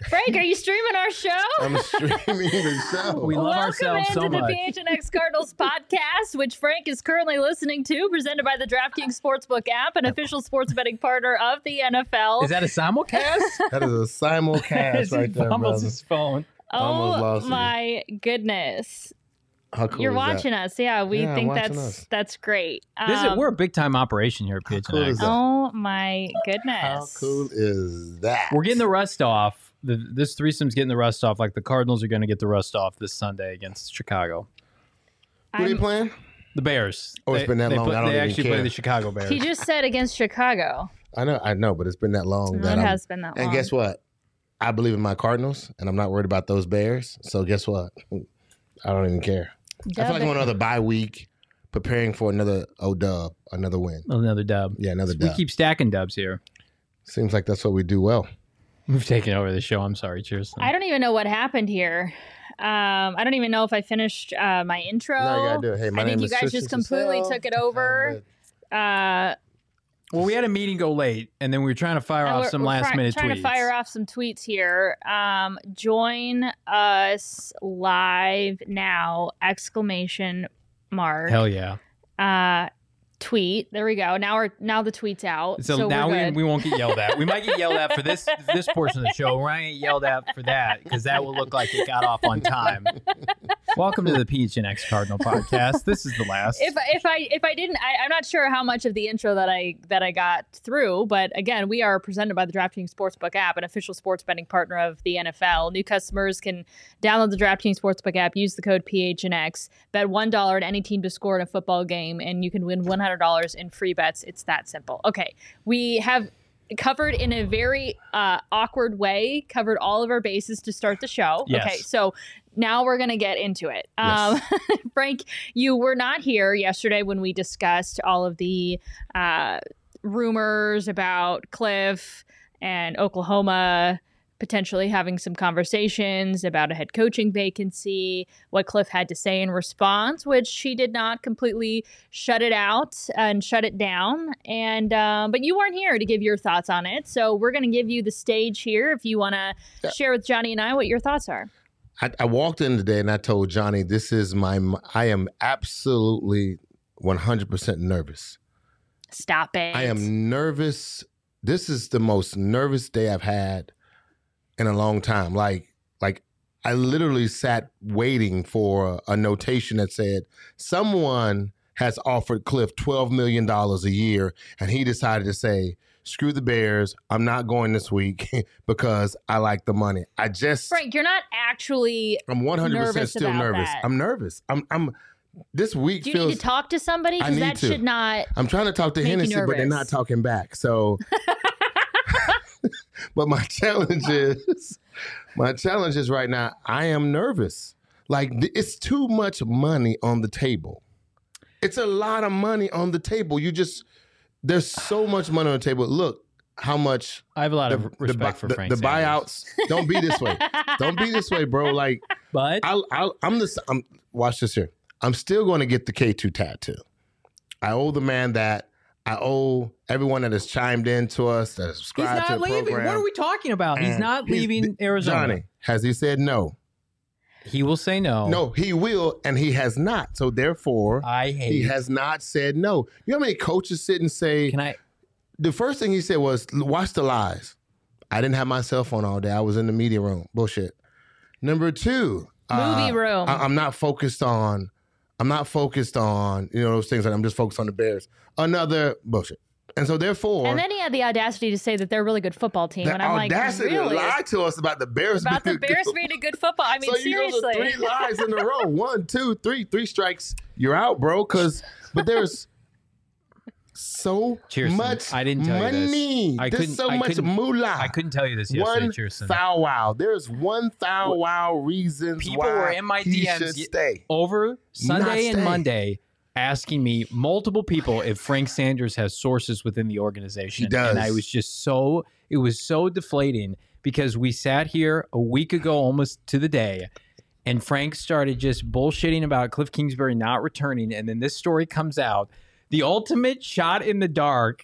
Frank, are you streaming our show? I'm streaming the show. We love ourselves so much. Welcome into the PHNX Cardinals podcast, which Frank is currently listening to, presented by the DraftKings Sportsbook app, an official sports betting partner of the NFL. Is that a simulcast? That is a simulcast right there, fumbles brother. his phone. Almost Oh lost you. my goodness. How cool You're is that? watching us. Yeah, we Yeah, think watching us. that's great. We're a big time operation here at cool PHNX. is that? Oh my goodness. How cool is that? We're getting the rust off. This threesome's getting the rust off. Like the Cardinals are going to get the rust off this Sunday against Chicago. Who are you playing? The Bears. Oh, it's been that long. I don't They even actually care. play the Chicago Bears. He just said against Chicago. I know, but it's been that long. It that I'm- has been that long. And guess what? I believe in my Cardinals, and I'm not worried about those Bears. So guess what? I don't even care. I feel like I'm on another bye week, preparing for another dub, another win. Another dub. Yeah, another We dub. keep stacking dubs here. Seems like that's what we do well. We've taken over the show. I'm sorry. Cheers. I don't even know what happened here. I don't even know if I finished my intro. No, you gotta do it. Hey, my I think name you is guys Tristan just completely Cassell. took it over. Well, we had a meeting go late, and then we were trying to fire off some last minute trying tweets. to fire off some tweets here. Join us live now! Exclamation mark. Hell yeah. Tweet. There we go. Now the tweet's out. So we're now good. we won't get yelled at. We might get yelled at for this portion of the show. We're not going to get yelled at for that because that will look like it got off on time. Welcome to the PHNX Cardinal podcast. This is the last. If I didn't, I'm not sure how much of the intro that I got through, but again, we are presented by the DraftKings Sportsbook app, an official sports betting partner of the NFL. New customers can download the DraftKings Sportsbook app, use the code PHNX, bet $1 at any team to score in a football game, and you can win $100 in free bets. It's that simple. Okay, we have covered in a very awkward way, covered all of our bases to start the show. Yes. Okay, so now we're going to get into it. Yes. Frank, you were not here yesterday when we discussed all of the rumors about Cliff and Oklahoma potentially having some conversations about a head coaching vacancy, what Cliff had to say in response, which he did not completely shut it out and shut it down. And but you weren't here to give your thoughts on it. So we're going to give you the stage here if you want to share with Johnny and I what your thoughts are. I walked in today and I told Johnny, I am absolutely 100% nervous. Stop it. I am nervous. This is the most nervous day I've had in a long time. Like I literally sat waiting for a notation that said someone has offered Cliff $12 million a year, and he decided to say, screw the Bears, I'm not going this week because I like the money. Frank, you're not actually I'm 100% nervous still about nervous. that. I'm nervous. I'm this week Do you feels need to talk to somebody? I Because need that to. should not. I'm trying to talk to make you Hennessy, but they're nervous. not talking back. So but my challenge is right now, I am nervous. Like it's too much money on the table. It's a lot of money on the table. There's so much money on the table. Look how much I have a lot of respect for Frank the Sanders. buyouts. Don't be this way. Don't be this way, bro. Like But I'm watch this here. I'm still going to get the K2 tattoo. I owe the man that. I owe everyone that has chimed in to us, that has he's subscribed to not the leaving. program. What are we talking about? He's And not leaving Arizona. Johnny, has he said no? He will say no. No, he will, and he has not. So therefore, I hate. he has not said no. You know how many coaches sit and say, Can I? the first thing he said was, watch the lies. I didn't have my cell phone all day. I was in the media room. Bullshit. Number two. Movie room. I'm not focused on, those things. I'm just focused on the Bears. Another bullshit. And so therefore. And then he had the audacity to say that they're a really good football team. the And I'm like, audacity really? to lie to us about the Bears About the being a Bears good being a good football. I mean, so you seriously. go to 3 lies in a row. 1, 2, 3. 3 strikes. You're out, bro. But there's so Cheerson, much I didn't tell you this. money. There's so much moolah. I couldn't tell you this yesterday, One Cheerson. foul wow. There's one foul wow reasons People why were in my he DMs should stay. over Sunday and stay. Monday asking me, multiple people, if Frank Sanders has sources within the organization. He does. And I was just it was so deflating because we sat here a week ago almost to the day and Frank started just bullshitting about Cliff Kingsbury not returning. And then this story comes out. The ultimate shot in the dark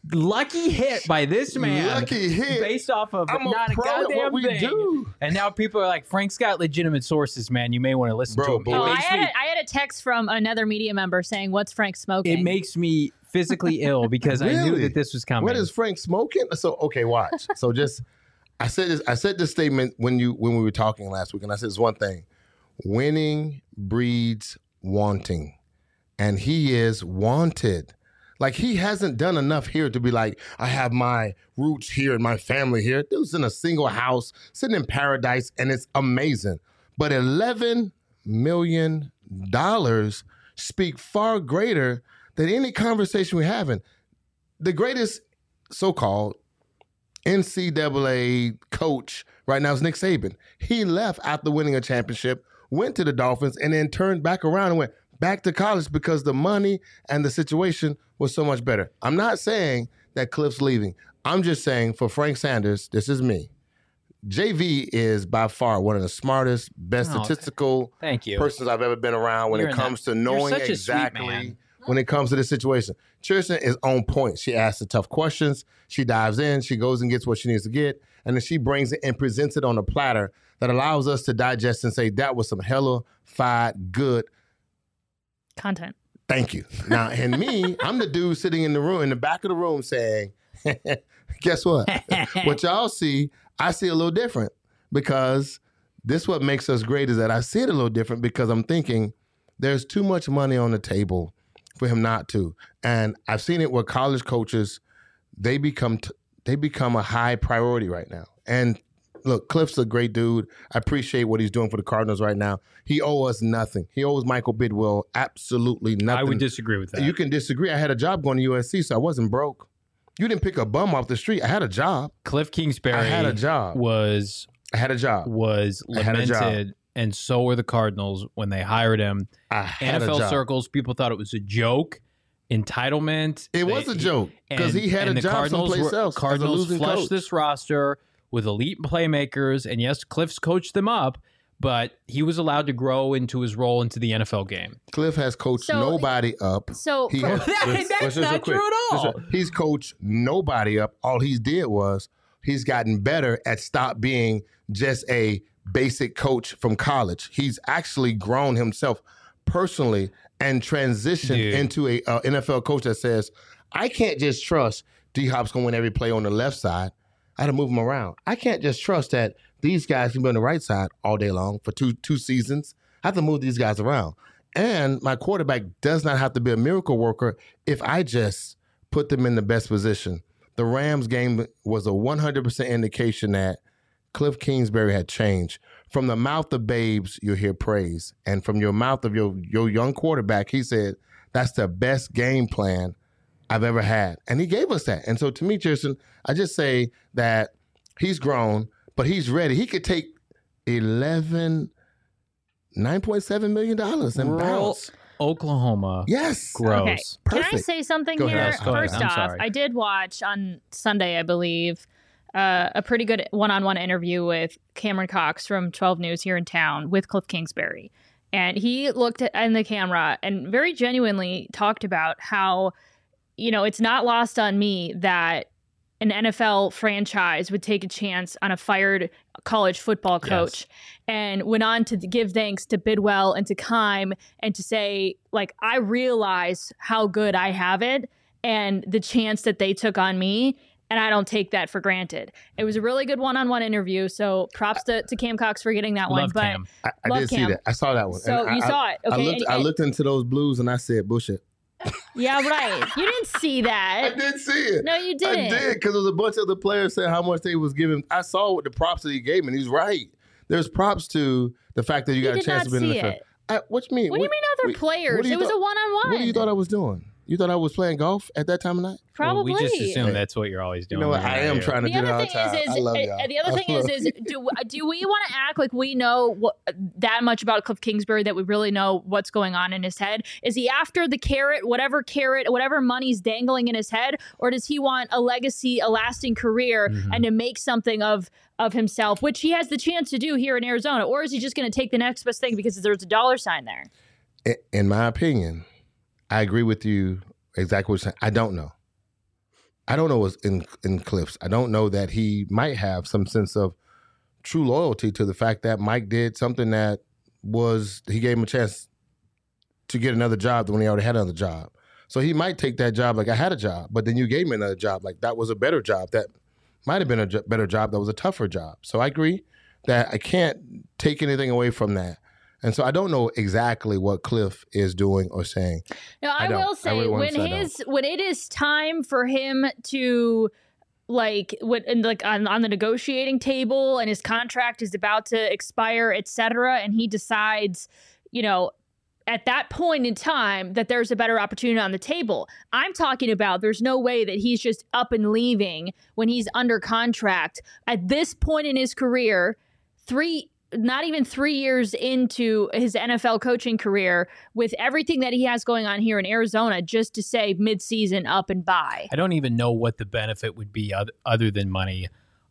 Lucky hit by this man. Lucky hit. Based off of I'm not a pro at goddamn what we thing. do. And now people are like, Frank's got legitimate sources, man. You may want to listen Bro, to him. boy. Oh, I It makes had a text from another media member saying, "What's Frank smoking?" It makes me physically ill because I knew Really? that this was coming. What is Frank smoking? So okay, watch. So just I said this statement when we were talking last week, and I said it's one thing: winning breeds wanting, and he is wanted. Like, he hasn't done enough here to be like, I have my roots here and my family here. Dude's in a single house, sitting in paradise, and it's amazing. But $11 million speak far greater than any conversation we're having. The greatest so-called NCAA coach right now is Nick Saban. He left after winning a championship, went to the Dolphins, and then turned back around and went back to college because the money and the situation was so much better. I'm not saying that Cliff's leaving. I'm just saying for Frank Sanders, this is me. JV is by far one of the smartest, best statistical Thank you. persons I've ever been around when it comes to knowing such a sweet exactly man. when it comes to this situation. Kirsten is on point. She asks the tough questions. She dives in. She goes and gets what she needs to get. And then she brings it and presents it on a platter that allows us to digest and say, that was some hella-fied good content. Thank you. Now, and me, I'm the dude sitting in the back of the room saying, guess what? What y'all see, I see a little different, because this what makes us great is that I see it a little different because I'm thinking there's too much money on the table for him not to. And I've seen it where college coaches, they become a high priority right now. And look, Cliff's a great dude. I appreciate what he's doing for the Cardinals right now. He owes us nothing. He owes Michael Bidwell absolutely nothing. I would disagree with that. You can disagree. I had a job going to USC, so I wasn't broke. You didn't pick a bum off the street. I had a job. Cliff Kingsbury I had a job. I had a job. Was lamented, and so were the Cardinals when they hired him. I had a NFL job. circles, people thought it was a joke. Entitlement. It was a joke because he had a job someplace else. Cardinals as a losing flushed coach. this roster with elite playmakers, and yes, Cliff's coached them up, but he was allowed to grow into his role into the NFL game. Cliff has coached nobody up. So that's not true at all. He's coached nobody up. All he did was he's gotten better at stop being just a basic coach from college. He's actually grown himself personally and transitioned into a NFL coach that says, I can't just trust D-Hop's going to win every play on the left side. I had to move him around. I can't just trust that these guys can be on the right side all day long for two seasons. I have to move these guys around. And my quarterback does not have to be a miracle worker if I just put them in the best position. The Rams game was a 100% indication that Cliff Kingsbury had changed. From the mouth of babes, you'll hear praise. And from your mouth of your young quarterback, he said, that's the best game plan I've ever had. And he gave us that. And so to me, Kirsten, I just say that he's grown, but he's ready. He could take $9.7 million and bounce. Oklahoma. Yes. Gross. Okay. Perfect. Can I say something Go here? ahead. Go ahead. First I'm off, sorry. I did watch on Sunday, I believe, a pretty good one-on-one interview with Cameron Cox from 12 News here in town with Cliff Kingsbury. And he looked in the camera and very genuinely talked about how, it's not lost on me that an NFL franchise would take a chance on a fired college football coach, and went on to give thanks to Bidwell and to Keim and to say, like, I realize how good I have it and the chance that they took on me, and I don't take that for granted. It was a really good one-on-one interview, so props to Cam Cox for getting that one. Love But Cam. I did see that. I saw that one. So And you saw it. Okay. I looked into those blues and I said, bullshit. Yeah, right. You didn't see that. I did see it. No, you didn't. I did, because there was a bunch of the players saying how much they was giving. I saw what the props that he gave me, and he's right. There's props to the fact that you got a chance to be in the NFL. What you mean? What do you mean other players? It was a one-on-one. What do you thought I was doing? You thought I was playing golf at that time of night? Probably. Well, we just assume that's what you're always doing. You know what? I am trying to The do it all other the thing time. is, I love y'all. the other thing is, do we want to act like we know that much about Cliff Kingsbury, that we really know what's going on in his head? Is he after the carrot, whatever money's dangling in his head, or does he want a legacy, a lasting career, and to make something of himself, which he has the chance to do here in Arizona, or is he just going to take the next best thing because there's a dollar sign there? In my opinion, I agree with you exactly what you're saying. I don't know. I don't know what's in Cliff's. I don't know that he might have some sense of true loyalty to the fact that Mike did something that he gave him a chance to get another job when he already had another job. So he might take that job like I had a job, but then you gave me another job like that was a better job. That might have been a better job. That was a tougher job. So I agree that I can't take anything away from that. And so I don't know exactly what Cliff is doing or saying. Now, I will say when it is time for him to on the negotiating table and his contract is about to expire, etc., and he decides, at that point in time that there's a better opportunity on the table. I'm talking about there's no way that he's just up and leaving when he's under contract at this point in his career, not even 3 years into his NFL coaching career, with everything that he has going on here in Arizona, just to say midseason up and bye. I don't even know what the benefit would be other than money.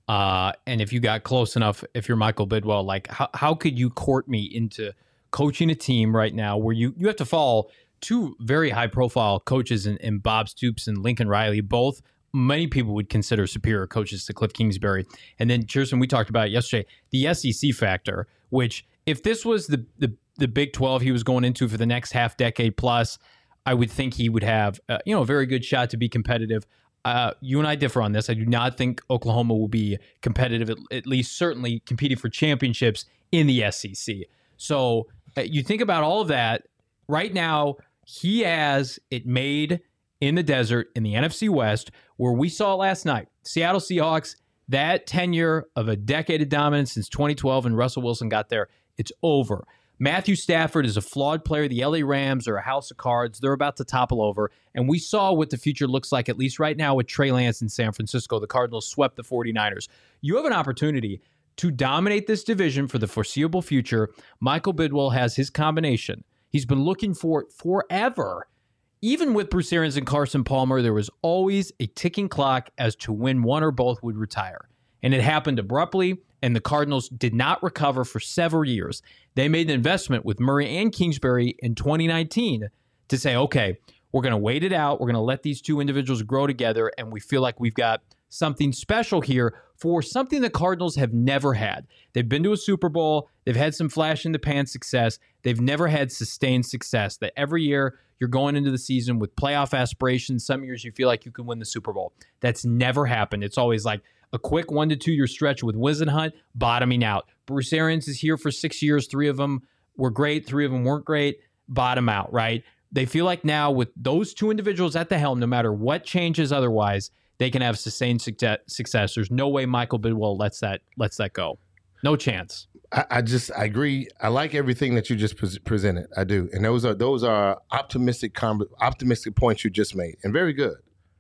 And if you got close enough, if you're Michael Bidwell, like how could you court me into coaching a team right now where you have to follow two very high profile coaches in Bob Stoops and Lincoln Riley, both many people would consider superior coaches to Cliff Kingsbury. And then, Kirsten, we talked about it yesterday, the SEC factor, which if this was the Big 12 he was going into for the next half decade plus, I would think he would have a very good shot to be competitive. You and I differ on this. I do not think Oklahoma will be competitive, at least certainly competing for championships in the SEC. So you think about all of that. Right now, he has it made in the desert in the NFC West, where we saw last night. Seattle Seahawks, that tenure of a decade of dominance since 2012 and Russell Wilson got there, it's over. Matthew Stafford is a flawed player. The LA Rams are a house of cards. They're about to topple over. And we saw what the future looks like, at least right now, with Trey Lance in San Francisco. The Cardinals swept the 49ers. You have an opportunity to dominate this division for the foreseeable future. Michael Bidwell has his combination. He's been looking for it forever. Even with Bruce Arians and Carson Palmer, there was always a ticking clock as to when one or both would retire. And it happened abruptly, and the Cardinals did not recover for several years. They made an investment with Murray and Kingsbury in 2019 to say, okay, we're going to wait it out. We're going to let these two individuals grow together, and we feel like we've got something special here for something the Cardinals have never had. They've been to a Super Bowl. They've had some flash-in-the-pan success. They've never had sustained success. That every year you're going into the season with playoff aspirations. Some years you feel like you can win the Super Bowl. That's never happened. It's always like a quick 1 to 2 year stretch with Whisenhunt bottoming out. Bruce Arians is here for 6 years. 3 of them were great. 3 of them weren't great. Bottom out, right? They feel like now with those two individuals at the helm, no matter what changes otherwise, they can have sustained success. There's no way Michael Bidwell lets that go. No chance. I agree. I like everything that you just presented. I do, and those are optimistic points you just made, and very good.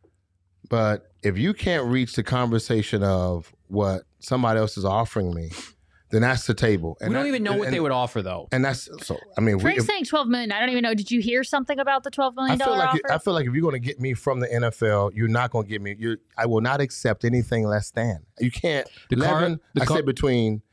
But if you can't reach the conversation of what somebody else is offering me, then that's the table. And we don't even know what they would offer, though. And that's so. I mean, Frank's saying $12 million. I don't even know. Did you hear something about the $12 million offer? I feel like if you're going to get me from the NFL, you're not going to get me. I will not accept anything less than. You can't. I said between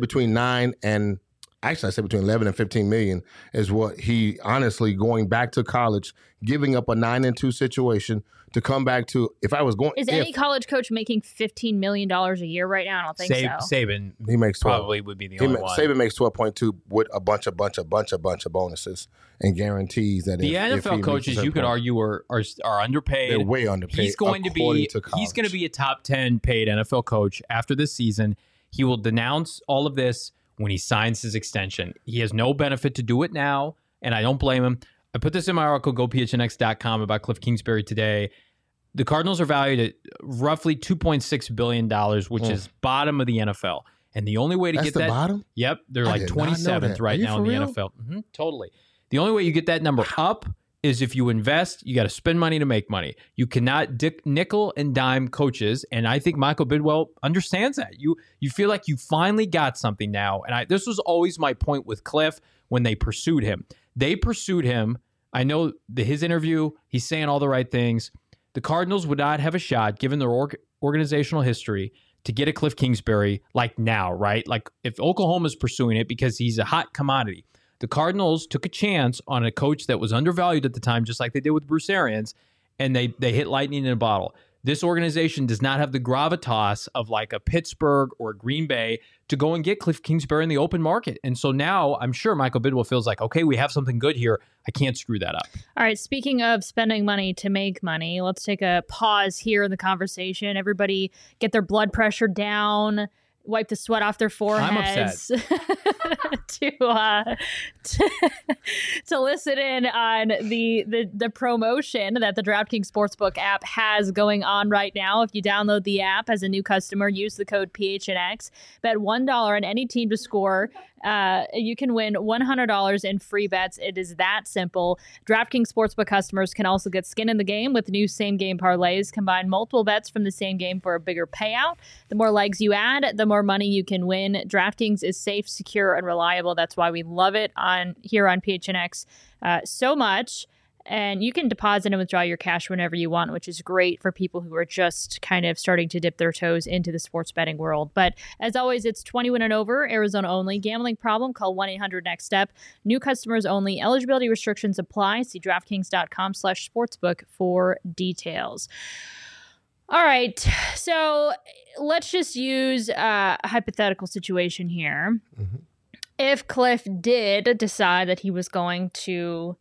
9 and actually I said between 11 and 15 million is what he honestly going back to college, giving up a 9-2 situation to come back to. If I was going, any college coach making $15 million a year right now? I don't think so. Saban, he makes 12. Probably would be the only one. Saban makes 12.2 with a bunch of bonuses and guarantees that the NFL coaches, you could argue, are underpaid. They're way underpaid. He's going to be a top 10 paid NFL coach after this season. He will denounce all of this when he signs his extension. He has no benefit to do it now, and I don't blame him. I put this in my article, gophnx.com, about Cliff Kingsbury today. The Cardinals are valued at roughly $2.6 billion, which is bottom of the NFL. And the only way to get that... bottom? Yep. They're like 27th right now in the NFL. Mm-hmm, totally. The only way you get that number up is if you invest. You got to spend money to make money. You cannot nickel and dime coaches, and I think Michael Bidwell understands that. You feel like you finally got something now, and this was always my point with Cliff when they pursued him. They pursued him. I know his interview, he's saying all the right things. The Cardinals would not have a shot, given their organizational history, to get a Cliff Kingsbury like now, right? Like if Oklahoma's pursuing it because he's a hot commodity. The Cardinals took a chance on a coach that was undervalued at the time, just like they did with Bruce Arians, and they hit lightning in a bottle. This organization does not have the gravitas of like a Pittsburgh or a Green Bay to go and get Cliff Kingsbury in the open market. And so now I'm sure Michael Bidwell feels like, okay, we have something good here. I can't screw that up. All right. Speaking of spending money to make money, let's take a pause here in the conversation. Everybody get their blood pressure down, wipe the sweat off their foreheads to listen in on the promotion that the DraftKings Sportsbook app has going on right now. If you download the app as a new customer, use the code PHNX, bet $1 on any team to score. You can win $100 in free bets. It is that simple. DraftKings Sportsbook customers can also get skin in the game with new same-game parlays. Combine multiple bets from the same game for a bigger payout. The more legs you add, the more money you can win. DraftKings is safe, secure, and reliable. That's why we love it here on PHNX so much. And you can deposit and withdraw your cash whenever you want, which is great for people who are just kind of starting to dip their toes into the sports betting world. But as always, it's 21 and over, Arizona only. Gambling problem? Call 1-800-NEXT-STEP. New customers only. Eligibility restrictions apply. See DraftKings.com/sportsbook for details. All right. So let's just use a hypothetical situation here. Mm-hmm. If Cliff did decide that he was going to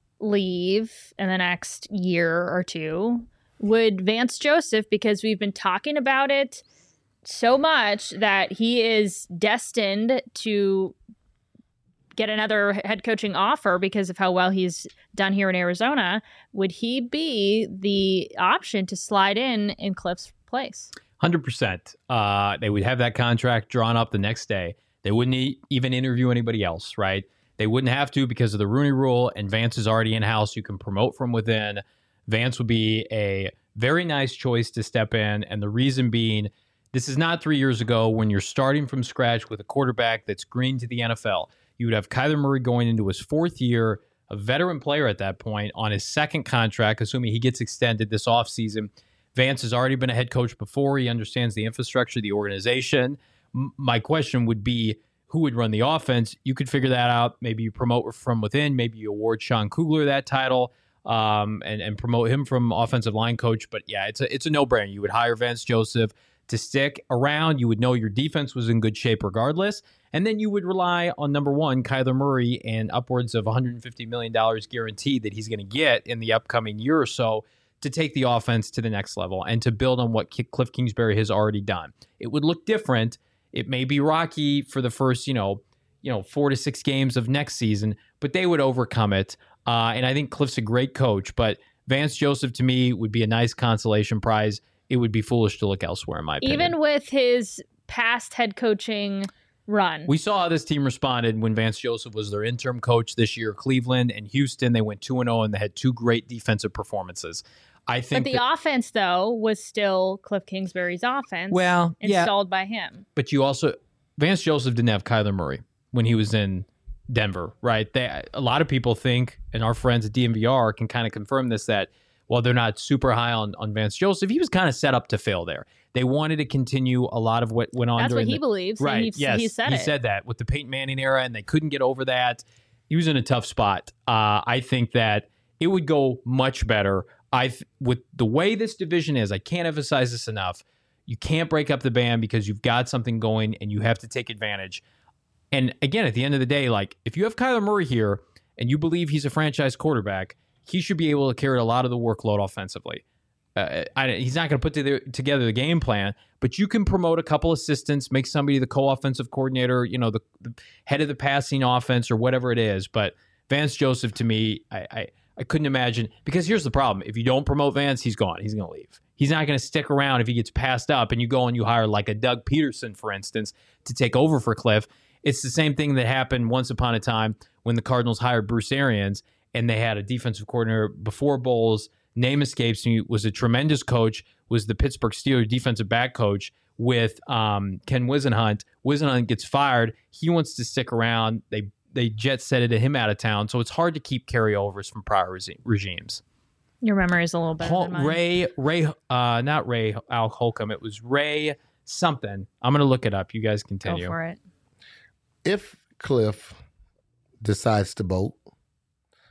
leave in the next year or two, would Vance Joseph, because we've been talking about it so much that he is destined to get another head coaching offer because of how well he's done here in Arizona, would he be the option to slide in Cliff's place? 100%. They would have that contract drawn up the next day. They wouldn't even interview anybody else, right? They wouldn't have to because of the Rooney Rule, and Vance is already in-house. You can promote from within. Vance would be a very nice choice to step in, and the reason being, this is not 3 years ago when you're starting from scratch with a quarterback that's green to the NFL. You would have Kyler Murray going into his fourth year, a veteran player at that point, on his second contract, assuming he gets extended this offseason. Vance has already been a head coach before. He understands the infrastructure, the organization. My question would be, who would run the offense? You could figure that out. Maybe you promote from within. Maybe you award Sean Kugler that title and promote him from offensive line coach. But yeah, it's a no-brainer. You would hire Vance Joseph to stick around. You would know your defense was in good shape regardless. And then you would rely on, number one, Kyler Murray and upwards of $150 million guaranteed that he's going to get in the upcoming year or so to take the offense to the next level and to build on what Cliff Kingsbury has already done. It would look different. It may be rocky for the first, 4 to 6 games of next season, but they would overcome it. And I think Cliff's a great coach, but Vance Joseph to me would be a nice consolation prize. It would be foolish to look elsewhere, in my opinion. Even with his past head coaching run. We saw how this team responded when Vance Joseph was their interim coach this year. Cleveland and Houston, they went 2-0 and they had 2 great defensive performances. I think but the offense, though, was still Cliff Kingsbury's offense. Well, installed by him. But Vance Joseph didn't have Kyler Murray when he was in Denver, right? A lot of people think, and our friends at DNVR can kind of confirm this, that while they're not super high on Vance Joseph, he was kind of set up to fail there. They wanted to continue a lot of what went on. That's what he believes. Right. And he said that with the Peyton Manning era, and they couldn't get over that. He was in a tough spot. I think that it would go much better. With the way this division is, I can't emphasize this enough. You can't break up the band because you've got something going and you have to take advantage. And again, at the end of the day, like if you have Kyler Murray here and you believe he's a franchise quarterback, he should be able to carry a lot of the workload offensively. He's not going to put together the game plan, but you can promote a couple assistants, make somebody the co-offensive coordinator, the head of the passing offense or whatever it is. But Vance Joseph, to me, I couldn't imagine, because here's the problem. If you don't promote Vance, he's gone. He's going to leave. He's not going to stick around if he gets passed up and you go and you hire like a Doug Peterson, for instance, to take over for Cliff. It's the same thing that happened once upon a time when the Cardinals hired Bruce Arians and they had a defensive coordinator before Bowles. Name escapes me, was a tremendous coach, was the Pittsburgh Steelers defensive back coach with Ken Wisenhunt. Wisenhunt gets fired. He wants to stick around. They jet setted him out of town. So it's hard to keep carryovers from prior regimes. Your memory is a little better than mine. Not Ray Al Holcomb. It was Ray something. I'm going to look it up. You guys continue. Go for it. If Cliff decides to bolt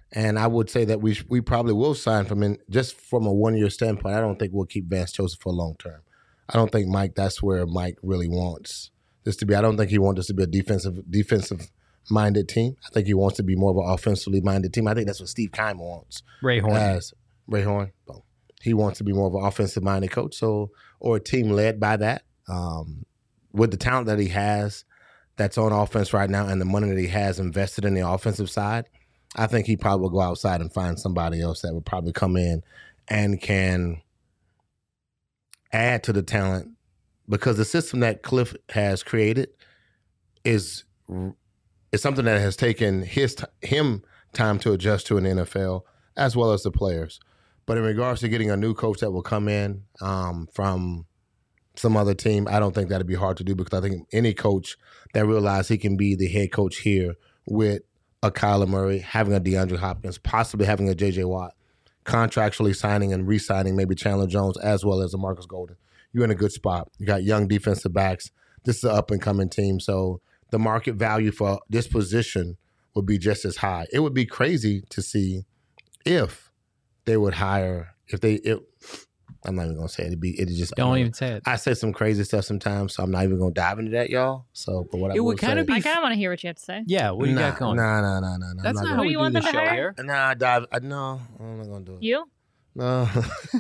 And I would say that we probably will sign from him just from a 1-year standpoint. I don't think we'll keep Vance Joseph for long term. I don't think Mike, that's where Mike really wants this to be. I don't think he wants this to be a defensive minded team. I think he wants to be more of an offensively minded team. I think that's what Steve Keim wants. Ray Horn. Well, he wants to be more of an offensive minded coach, or a team led by that. With the talent that he has that's on offense right now and the money that he has invested in the offensive side, I think he probably will go outside and find somebody else that would probably come in and can add to the talent, because the system that Cliff has created is something that has taken him time to adjust to in the NFL, as well as the players. But in regards to getting a new coach that will come in from some other team, I don't think that'd be hard to do, because I think any coach that realizes he can be the head coach here with a Kyler Murray, having a DeAndre Hopkins, possibly having a J.J. Watt, contractually signing and re-signing maybe Chandler Jones as well as a Marcus Golden, you're in a good spot. You got young defensive backs. This is an up-and-coming team, so the market value for this position would be just as high. It would be crazy to see if they would hire, I'm not even gonna say it. It just Don't even say it. I say some crazy stuff sometimes, so I'm not even gonna dive into that, y'all. So, but what It I would kind of be. I kind of want to hear what you have to say. Yeah, what do you got going? Nah. That's not how we you do want the them to show hire? here. No, I'm not gonna do it. You? No.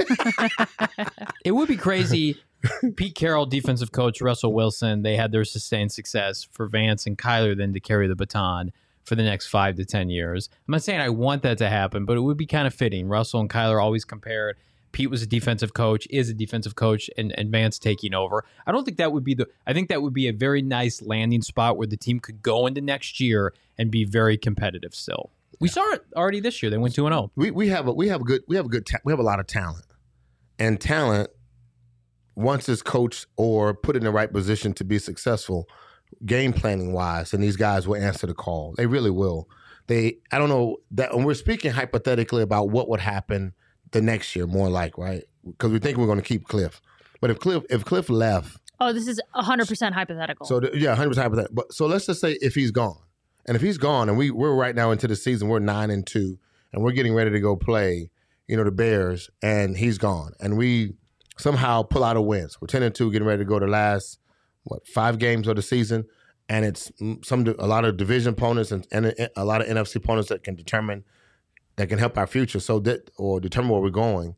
It would be crazy. Pete Carroll, defensive coach, Russell Wilson, they had their sustained success for Vance and Kyler then to carry the baton for the next 5 to 10 years. I'm not saying I want that to happen, but it would be kind of fitting. Russell and Kyler always compared. Pete was a defensive coach, is a defensive coach, and Vance taking over. I don't think that would be I think that would be a very nice landing spot where the team could go into next year and be very competitive still. We saw it already this year. They went 2-0. We have a lot of talent, and talent, once it's coached or put in the right position to be successful, game planning wise, and these guys will answer the call. They really will. I don't know that, and we're speaking hypothetically about what would happen the next year, more like, right? Because we think we're going to keep Cliff, but if Cliff left, Oh, this is 100% hypothetical. so 100% hypothetical. But so let's just say if he's gone, and we're right now into the season, we're 9-2, and we're getting ready to go play, the Bears, and he's gone, and we somehow pull out a win. So we're 10-2, getting ready to go to the last 5 games of the season, and it's a lot of division opponents and a lot of NFC opponents that can help our future, or determine where we're going.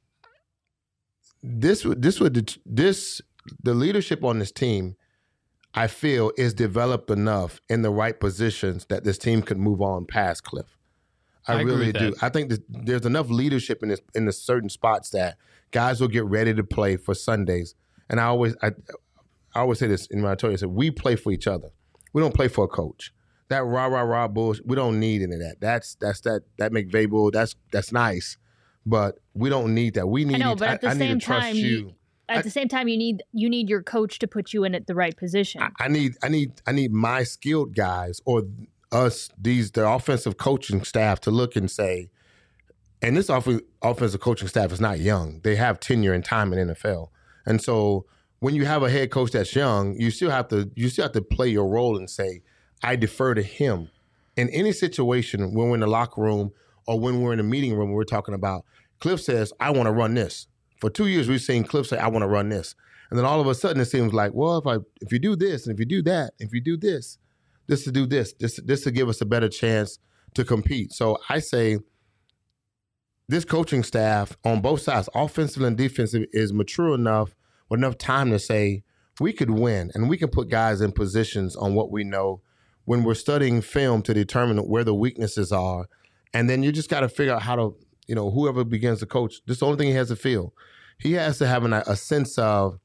The leadership on this team, I feel, is developed enough in the right positions that this team could move on past Cliff. I agree really with do. that. I think that there's enough leadership in the certain spots that guys will get ready to play for Sundays. And I always say this in my story. I said, we play for each other. We don't play for a coach. That rah bullshit, we don't need any of that. That's that McVay bull. That's nice, but we don't need that. We need. I know, but at the same time, you. At the same time, you need your coach to put you in at the right position. I need my skilled guys, or us, the offensive coaching staff, to look and say, and this offensive coaching staff is not young. They have tenure and time in NFL, and so when you have a head coach that's young, you still have to play your role and say, I defer to him in any situation when we're in the locker room or when we're in the meeting room. We're talking about Cliff says, I want to run this. For 2 years, we've seen Cliff say, I want to run this. And then all of a sudden it seems like, well, if you do this, and if you do that, if you do this to do this to give us a better chance to compete. So I say this coaching staff on both sides, offensive and defensive, is mature enough with enough time to say, we could win, and we can put guys in positions on what we know when we're studying film to determine where the weaknesses are. And then you just got to figure out how to, whoever begins to coach, this is the only thing he has to feel. He has to have a sense of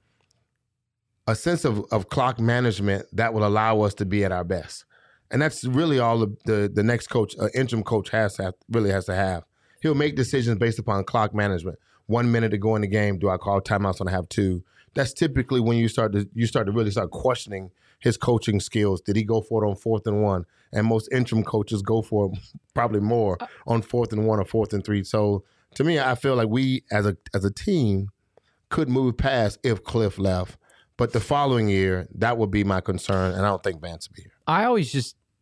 clock management that will allow us to be at our best. And that's really all the next coach, interim coach, has to have. He'll make decisions based upon clock management. 1 minute to go in the game, do I call timeouts when I have 2? That's typically when you start to really start questioning his coaching skills. Did he go for it on 4th and 1? And most interim coaches go for it probably more on 4th and 1 or 4th and 3. So to me, I feel like we as a team could move past if Cliff left. But the following year, that would be my concern, and I don't think Vance will be here. I always just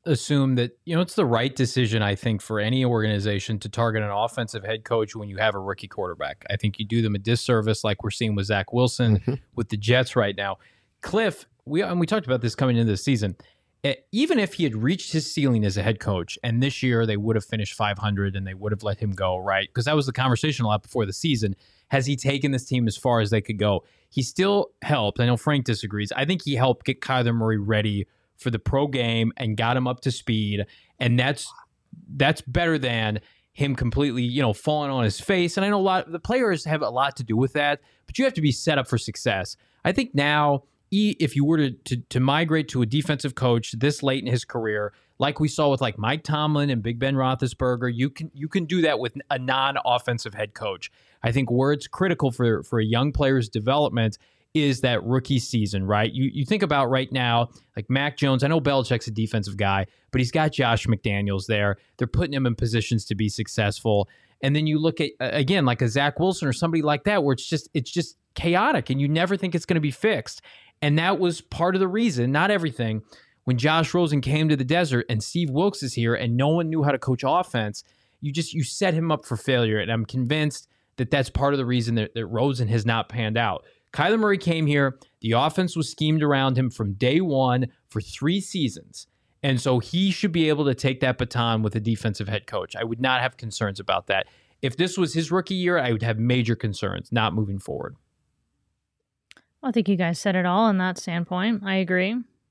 assume that, it's the right decision, I think, for any organization to target an offensive head coach when you have a rookie quarterback. I think you do them a disservice like we're seeing with Zach Wilson with the Jets right now. Cliff, we talked about this coming into the season. Even if he had reached his ceiling as a head coach, and this year they would have finished 500 and they would have let him go, right? Because that was the conversation a lot before the season. Has he taken this team as far as they could go? He still helped. I know Frank disagrees. I think he helped get Kyler Murray ready for the pro game and got him up to speed. And that's better than him completely, falling on his face. And I know the players have a lot to do with that, but you have to be set up for success. I think now, if you were to migrate to a defensive coach this late in his career, like we saw with like Mike Tomlin and Big Ben Roethlisberger, you can do that with a non-offensive head coach. I think where it's critical for a young player's development is that rookie season, right? You think about right now, like Mac Jones. I know Belichick's a defensive guy, but he's got Josh McDaniels there. They're putting him in positions to be successful. And then you look at, again, like a Zach Wilson or somebody like that, where it's just chaotic and you never think it's going to be fixed. And that was part of the reason, not everything, when Josh Rosen came to the desert and Steve Wilkes is here and no one knew how to coach offense, you set him up for failure. And I'm convinced that that's part of the reason that Rosen has not panned out. Kyler Murray came here. The offense was schemed around him from day one for 3 seasons. And so he should be able to take that baton with a defensive head coach. I would not have concerns about that. If this was his rookie year, I would have major concerns, not moving forward. I think you guys said it all in that standpoint. I agree.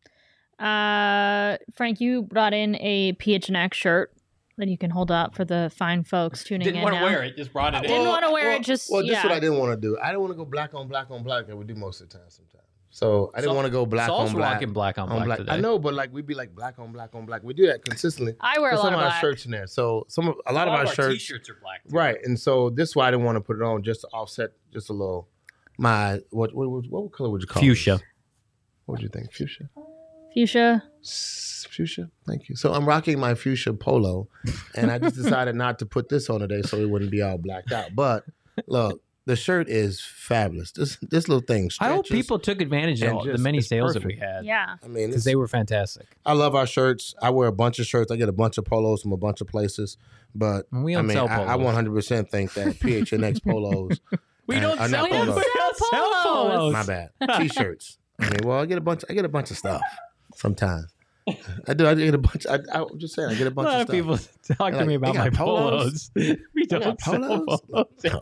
Frank, you brought in a PHNX shirt that you can hold up for the fine folks tuning in now. Didn't want to wear it, just brought it in. Didn't want to wear it, just, Well, this is what I didn't want to do. I didn't want to go black on black on black that we do most of the time sometimes. So I didn't want to go black on black. Rocking black on black today. I know, but like we'd be like black on black on black. We do that consistently. I wear a lot of black. Some of our shirts in there. So a lot of our shirts. T-shirts are black. Too. Right, and so this is why I didn't want to put it on just to offset just a little. What color would you call it? Fuchsia. What would you think? Fuchsia? Fuchsia? Thank you. So I'm rocking my fuchsia polo, and I just decided not to put this on today so it wouldn't be all blacked out. But look, the shirt is fabulous. This little thing stretches. I hope people took advantage of the many sales that we had. Yeah. I mean, because they were fantastic. I love our shirts. I wear a bunch of shirts. I get a bunch of polos from a bunch of places. But we don't sell polos. I 100% think that PHNX polos. We don't sell polos. My bad. T-shirts. I mean, well, I get a bunch of stuff sometimes. I do. I get a bunch. I'm just saying, I get a bunch of stuff. A lot of people talk to me about my polos. We don't sell polos.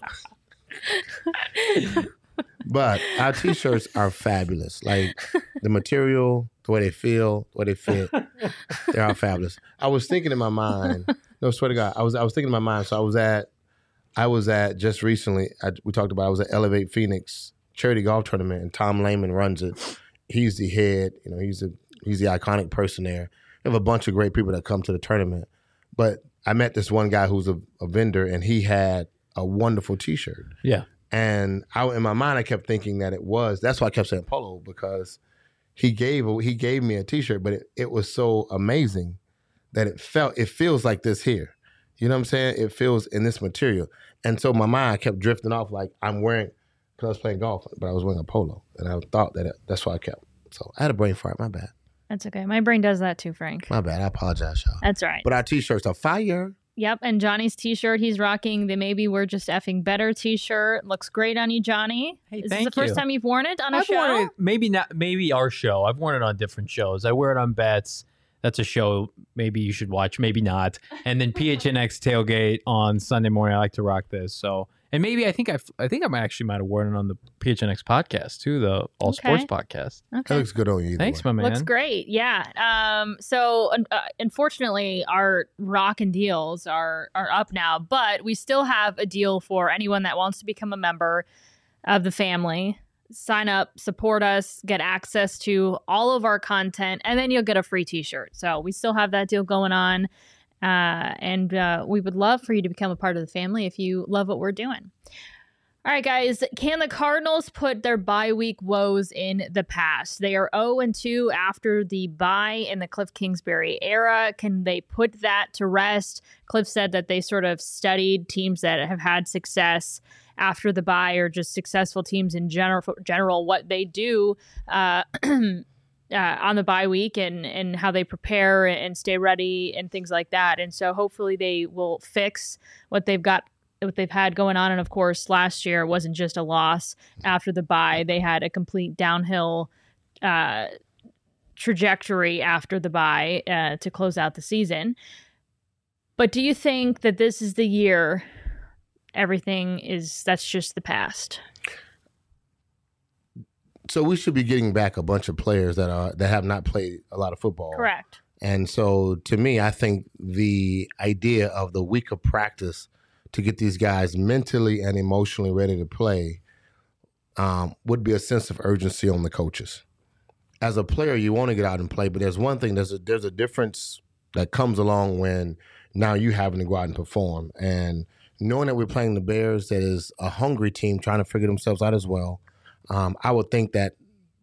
But our T-shirts are fabulous. Like the material, the way they feel, the way they fit, they are fabulous. I was thinking in my mind. No, swear to God, I was thinking in my mind. So I was at just recently. We talked about. I was at Elevate Phoenix charity golf tournament, and Tom Lehman runs it. He's the head. He's the iconic person there. We have a bunch of great people that come to the tournament. But I met this one guy who's a vendor, and he had a wonderful T-shirt. Yeah. And in my mind, I kept thinking that it was. That's why I kept saying polo, because he gave me a T-shirt, but it was so amazing that it feels like this here. You know what I'm saying? It feels in this material. And so my mind kept drifting off like I'm wearing, because I was playing golf, but I was wearing a polo. And I thought that's why I kept. So I had a brain fart. My bad. That's okay. My brain does that too, Frank. My bad. I apologize, y'all. That's right. But our T-shirts are fire. Yep. And Johnny's T-shirt, he's rocking the Maybe We're Just Effing Better T-shirt. Looks great on you, Johnny. Hey, Is this the first time you've worn it on a show? Worn it, maybe our show. I've worn it on different shows. I wear it on Bets. That's a show maybe you should watch, maybe not. And then PHNX Tailgate on Sunday morning. I like to rock this. So, and maybe I think I might have worn it on the PHNX podcast too, the All Sports podcast. Okay. That looks good on you. Thanks, my man. Looks great. Yeah. So unfortunately, our Rockin' deals are up now, but we still have a deal for anyone that wants to become a member of the family. Sign up, support us, get access to all of our content, and then you'll get a free T-shirt. So we still have that deal going on. And we would love for you to become a part of the family if you love what we're doing. All right, guys. Can the Cardinals put their bye week woes in the past? They are 0-2 after the bye in the Cliff Kingsbury era. Can they put that to rest? Cliff said that they sort of studied teams that have had success after the bye, or just successful teams in general, what they do on the bye week and how they prepare and stay ready and things like that. And so hopefully they will fix what they've had going on. And of course, last year it wasn't just a loss after the bye. They had a complete downhill trajectory after the bye to close out the season. But do you think that this is the year that's just the past? So we should be getting back a bunch of players that have not played a lot of football. Correct. And so to me, I think the idea of the week of practice to get these guys mentally and emotionally ready to play would be a sense of urgency on the coaches. As a player, you want to get out and play, but there's one thing, there's a difference that comes along when now you having to go out and perform. And knowing that we're playing the Bears, that is a hungry team trying to figure themselves out as well, I would think that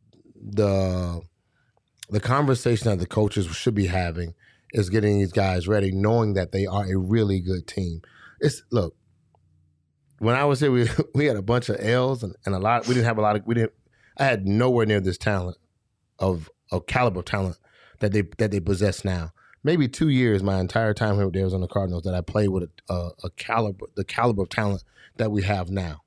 the conversation that the coaches should be having is getting these guys ready, knowing that they are a really good team. Look, when I was here, we had a bunch of L's and a lot. We didn't have a lot of. I had nowhere near this talent of caliber of talent that they possess now. Maybe 2 years, my entire time here with the Arizona Cardinals, that I played with the caliber of talent that we have now.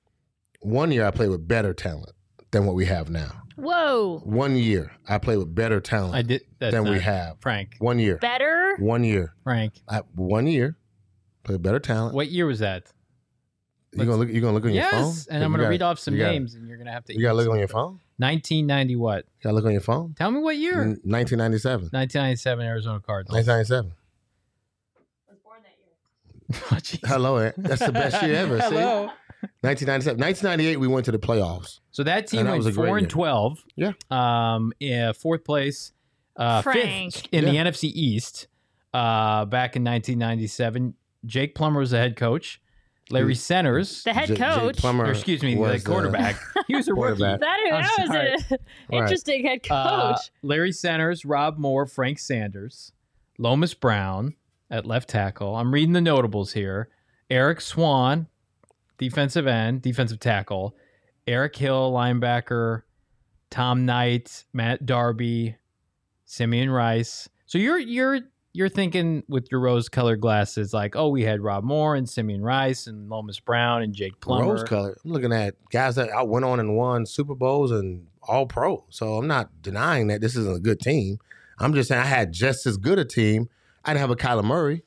1 year, I played with better talent than what we have now. Whoa! 1 year, I played with better talent than we have. Frank. 1 year. Better? 1 year. Frank. 1 year, played better talent. What year was that? You gonna look on your phone? Yes, and I'm gonna read off some names, and you're gonna have to. You gotta look on your phone. 1990 what? You gotta look on your phone. Tell me what year. 1997. 1997 Arizona Cardinals. 1997. I was born that year. Oh, Hello, that's the best year ever. Hello. See? 1997. 1998, we went to the playoffs. So that team went 4-12. Yeah. Fourth place. Frank. Fifth in the NFC East. Back in 1997. Jake Plummer was the head coach. Larry Centers. The head coach. The quarterback. He was a rookie. That was an interesting head coach. Larry Centers, Rob Moore, Frank Sanders, Lomas Brown at left tackle. I'm reading the notables here. Eric Swan, defensive tackle. Eric Hill, linebacker. Tom Knight, Matt Darby, Simeon Rice. So you're thinking with your rose-colored glasses, like, oh, we had Rob Moore and Simeon Rice and Lomas Brown and Jake Plummer. Rose-colored. I'm looking at guys that went on and won Super Bowls and All-Pro. So I'm not denying that this isn't a good team. I'm just saying I had just as good a team. I didn't have a Kyler Murray.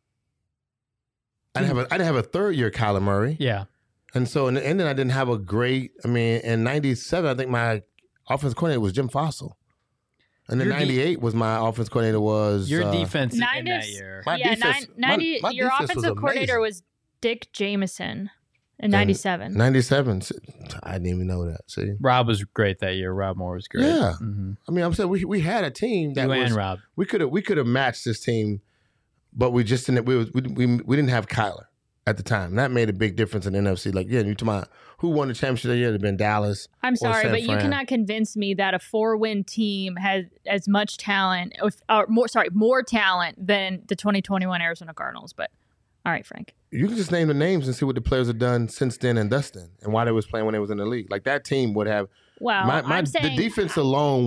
I didn't have a third-year Kyler Murray. Yeah. And so, and then I didn't have a great. I mean, in '97, I think my offensive coordinator was Jim Fossil. And then 98 was my offense coordinator was your defense in that year. Your offensive coordinator was Dick Jameson in 97. 97. I didn't even know that. See, Rob was great that year. Rob Moore was great. Yeah. I mean, I'm saying we had a team that and Rob. We could have matched this team, but we just didn't. We didn't have Kyler at the time. And that made a big difference in the NFC. Like, you're talking about who won the championship that year? It'd have been Dallas. I'm sorry, but you cannot convince me that a 4-win team has as much talent, or more talent than the 2021 Arizona Cardinals. But all right, Frank. You can just name the names and see what the players have done since then and thus then, and why they was playing when they was in the league. Like, that team would have. Well, I'm saying the defense alone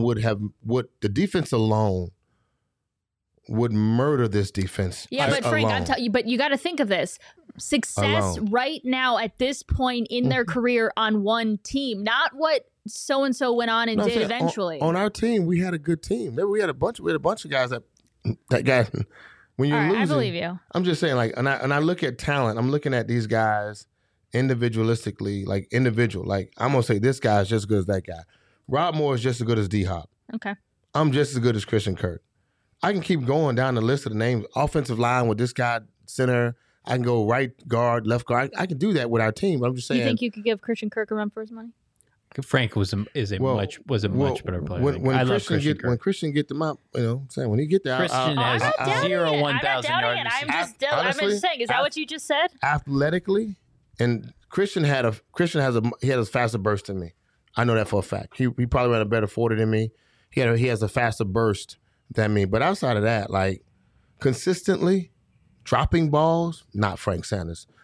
would murder this defense. Yeah, but Frank, I'm telling you, but you got to think of this. Success right now at this point in their career on one team, not what so-and-so went on and did eventually. On our team, we had a good team. We had a bunch of guys that guys, when you're losing. I believe you. I'm just saying, like, and I look at talent, I'm looking at these guys individualistically, like individual. Like, I'm going to say this guy's just as good as that guy. Rob Moore is just as good as D-Hop. Okay. I'm just as good as Christian Kirk. I can keep going down the list of the names. Offensive line with this guy, center. I can go right guard, left guard. I can do that with our team. But I'm just saying. You think you could give Christian Kirk a run for his money? Frank was a much better player. When Christian get them up, I'm saying when he get there, Christian has 1,000 yards. I'm just saying. Is that what you just said? Athletically, and Christian has a faster burst than me. I know that for a fact. He probably ran a better 40 than me. He has a faster burst than me. But outside of that, like, consistently dropping balls, not Frank Sanders.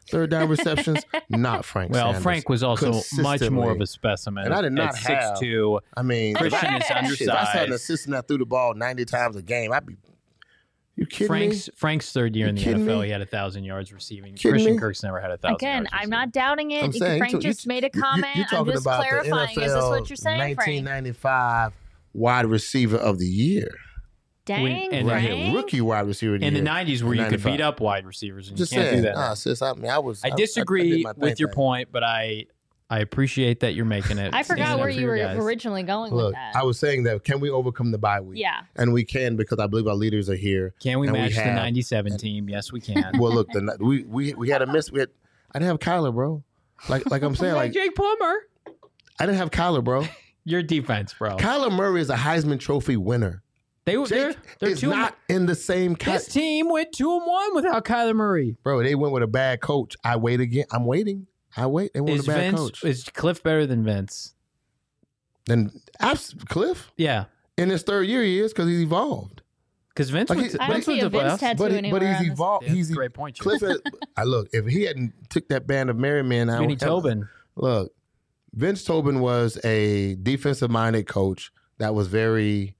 third down receptions? Not Frank Well, Sanders. Frank was also much more of a specimen. And I did not at have 6'2". I mean, Christian is if I had an undersized. assistant that threw the ball 90 times a game, I'd be. You kidding me? Frank's third year in the kidding NFL, me? he had 1,000 yards receiving. Kidding Christian me? Kirk's never had 1,000 Again, yards I'm receiving. not doubting it. I'm saying, Frank you- just made a comment. You're I'm talking just about clarifying. the Is this NFL what you're saying, Frank? 1995 wide receiver of the year. Dang, and Right Frank. here, rookie wide receiver of the In the year. 90s where you could 95. beat up wide receivers, and Just you can't saying. do that. Nah, sis, I I disagree did my with your thing. point, but I appreciate that you're making it. I Standing forgot up where for you your were guys. originally going with Look, that. I was saying that can we overcome the bye week? Yeah. And we can because I believe our leaders are here. Can we and match the have- 97 team? Yes, we can. Well, look, we had a miss. I didn't have Kyler, bro. Like I'm saying, like Jake Plummer. I didn't have Kyler, bro. Your defense, bro. Kyler Murray is a Heisman Trophy winner. They're Jake is two. not in the same This team went 2-1 without Kyler Murray. Bro, they went with a bad coach. I wait again. I'm waiting. I wait. They went with a bad coach. Is Cliff better than Vince? Then Cliff Yeah, in his third year he is because he's evolved. because Vince Like went he- to, I don't Vince see went a to Vince playoffs. tattoo anywhere But he's on this. evolved. Yeah, He's that's a great point, Jim. Cliff. I look. If he hadn't took that band of Merry Men out, Vinny Tobin. Look, Vince Tobin was a defensive-minded coach that was very,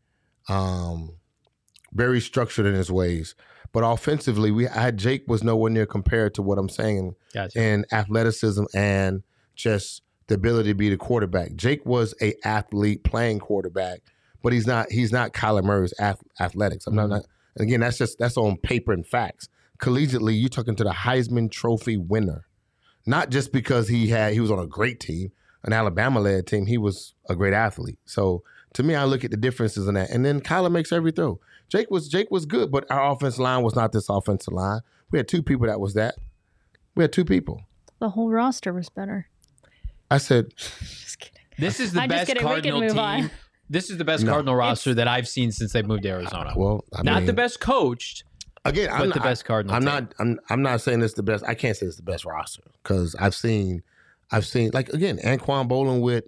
very structured in his ways. But offensively, Jake was nowhere near compared to what I'm saying Gotcha. in athleticism and just the ability to be the quarterback. Jake was a athlete playing quarterback, but he's not Kyler Murray's athletics. I'm not. And again, that's on paper and facts. Collegiately, you're talking to the Heisman Trophy winner, not just because he was on a great team, an Alabama-led team. He was a great athlete. So to me, I look at the differences in that. And then Kyler makes every throw. Jake was good, but our offensive line was not this offensive line. We had two people that was that. We had two people. The whole roster was better. I said, Just kidding. This is the I'm just best kidding. We can Cardinal move team. on. This is the best No. Cardinal roster that I've seen since they moved to Arizona. well, I Not mean, the best coached, again, but the best Cardinal team. I'm not saying it's the best. I can't say it's the best roster because I've seen like again, Anquan Bolin with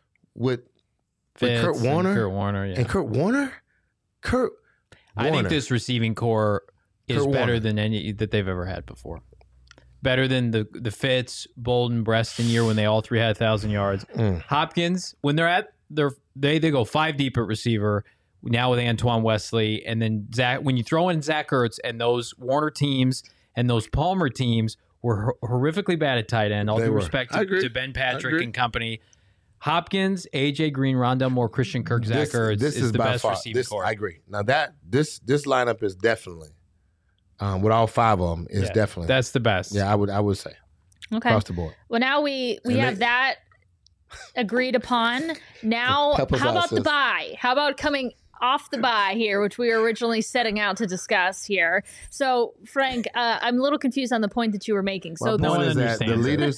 Fitz Kurt and Warner Kurt Warner, yeah. and Kurt Warner. I think this receiving core is Kurt better Warner. than any that they've ever had before. Better than the Fitz, Bolden, Breston year when they all three had 1,000 yards. Hopkins, when they're at they go 5 deep at receiver now with Antoine Wesley, and then Zach. When you throw in Zach Ertz and those Warner teams and those Palmer teams were horrifically bad at tight end. All They due were. respect I agree. to Ben Patrick agree. and company. Hopkins, AJ Green, Rondell Moore, Christian Kirk, Zach Ertz is the by best far, receiving core. I agree. Now this lineup is definitely with all 5 of them is Yeah, definitely that's the best. yeah. I would say Okay. across the board. Well, now we And have they- that agreed upon. Now, Help us how out, about the sis. bye? How about coming off the bye here, which we were originally setting out to discuss here? So, Frank, I'm a little confused on the point that you were making. So, My no point one is that the understands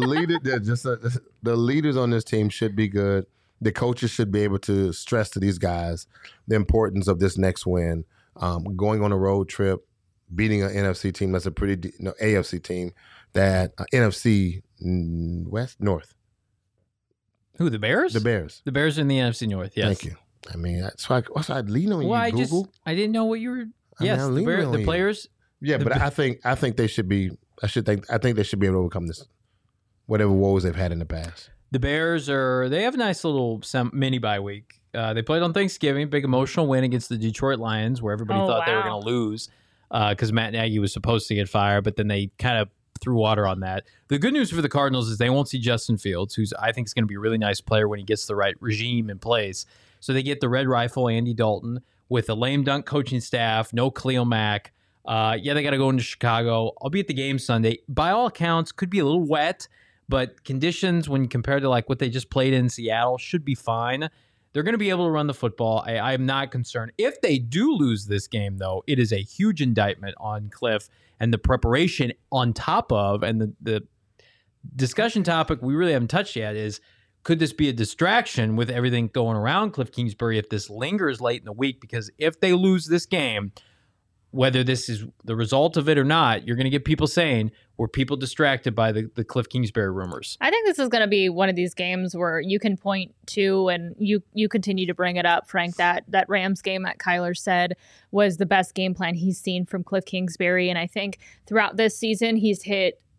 the leaders on this team should be good. The coaches should be able to stress to these guys the importance of this next win, going on a road trip, beating an NFC team that's a pretty AFC team that NFC West North. Who, the Bears? The Bears. The Bears in the NFC North, yes. Thank you. I mean, that's why I lean on Well, you, Google. I didn't know what you were. I mean, Yes, I'm the, leaning on the you. players. Yeah, the but Be- I think they should be. I think they should be able to overcome this, whatever woes they've had in the past. The Bears they have a nice little mini bye week. They played on Thanksgiving, big emotional win against the Detroit Lions, where everybody Oh, thought they were wow. going to lose because Matt Nagy was supposed to get fired, but then they kind of threw water on that. The good news for the Cardinals is they won't see Justin Fields, who's I think is going to be a really nice player when he gets the right regime in place. So they get the Red Rifle, Andy Dalton, with a lame dunk coaching staff, no Khalil Mack. Yeah, they got to go into Chicago. I'll be at the game Sunday. By all accounts, could be a little wet, but conditions when compared to like what they just played in Seattle should be fine. They're going to be able to run the football. I'm not concerned. If they do lose this game, though, it is a huge indictment on Cliff and the preparation on top of, and the discussion topic we really haven't touched yet is, could this be a distraction with everything going around Cliff Kingsbury if this lingers late in the week? Because if they lose this game, whether this is the result of it or not, you're going to get people saying, were people distracted by the Cliff Kingsbury rumors? I think this is going to be one of these games where you can point to, and you continue to bring it up, Frank, that Rams game that Kyler said was the best game plan he's seen from Cliff Kingsbury. And I think throughout this season, he's hit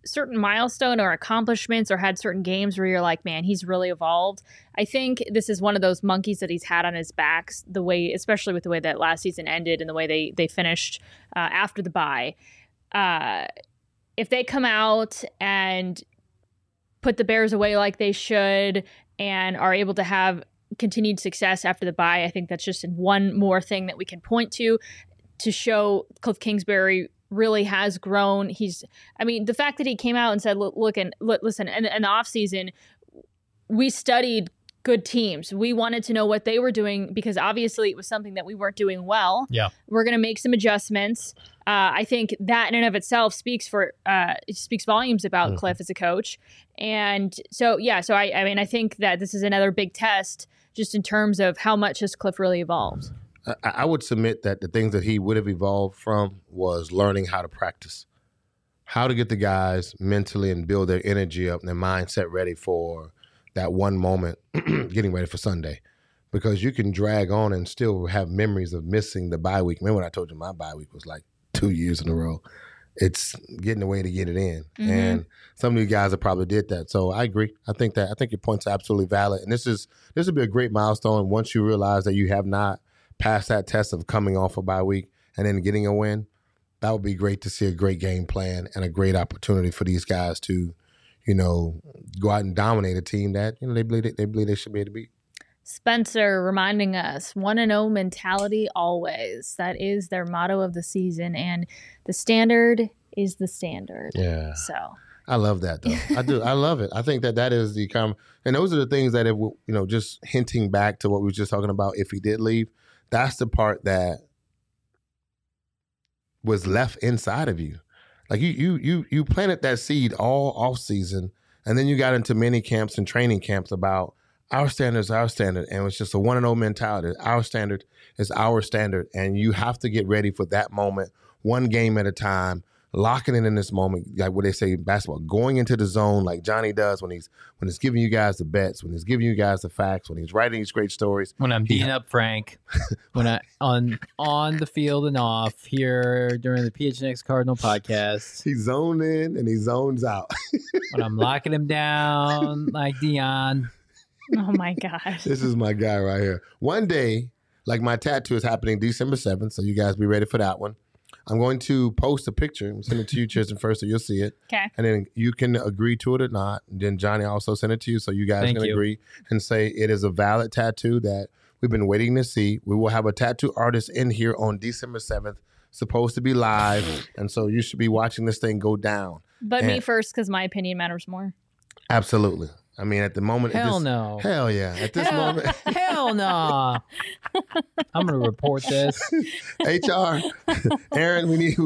certain milestone or accomplishments or had certain games where you're like, man, he's really evolved. I think this is one of those monkeys that he's had on his back, the way, especially with the way that last season ended and the way they finished after the bye. If they come out and put the Bears away like they should and are able to have continued success after the bye, I think that's just one more thing that we can point to show Cliff Kingsbury really has grown. The fact that he came out and said, listen, in the offseason, we studied good teams. We wanted to know what they were doing because obviously it was something that we weren't doing well. Yeah. We're going to make some adjustments. I think that in and of itself speaks volumes about Cliff as a coach. And so I think that this is another big test just in terms of how much has Cliff really evolved. I would submit that the things that he would have evolved from was learning how to practice, how to get the guys mentally and build their energy up and their mindset ready for that one moment, getting ready for Sunday. Because you can drag on and still have memories of missing the bye week. Remember when I told you my bye week was like 2 years in a row? It's getting a way to get it in. Mm-hmm. And some of you guys have probably did that. So I agree. I think your point's absolutely valid. And this would be a great milestone once you realize that you have not passed that test of coming off a bye week and then getting a win. That would be great to see, a great game plan and a great opportunity for these guys to, go out and dominate a team that, they believe they should be able to beat. Spencer reminding us 1-0 mentality always. That is their motto of the season, and the standard is the standard. Yeah. So I love that though. I do. I love it. I think that is the and those are the things that, if just hinting back to what we were just talking about, if he did leave, that's the part that was left inside of you. Like you planted that seed all off season, and then you got into mini camps and training camps about our standard is our standard, and it's just a 1-0 mentality. Our standard is our standard, and you have to get ready for that moment, one game at a time, locking in this moment, like what they say in basketball, going into the zone like Johnny does when he's giving you guys the bets, when he's giving you guys the facts, when he's writing these great stories. When I'm beating up Frank, when I on the field and off here during the PHNX Cardinal podcast. He zoned in and he zones out. When I'm locking him down like Dion. Oh my gosh. This is my guy right here. One day, like my tattoo is happening December 7th, so you guys be ready for that one. I'm going to post a picture and send it to you, Tristan, first, so you'll see it. Okay. And then you can agree to it or not. And then Johnny also sent it to you, so you guys can agree and say it is a valid tattoo that we've been waiting to see. We will have a tattoo artist in here on December 7th, supposed to be live. And so you should be watching this thing go down. But me first, because my opinion matters more. Absolutely. I mean, at the moment. No. Hell yeah. At this moment. Hell no. I'm going to report this. HR. Aaron, we need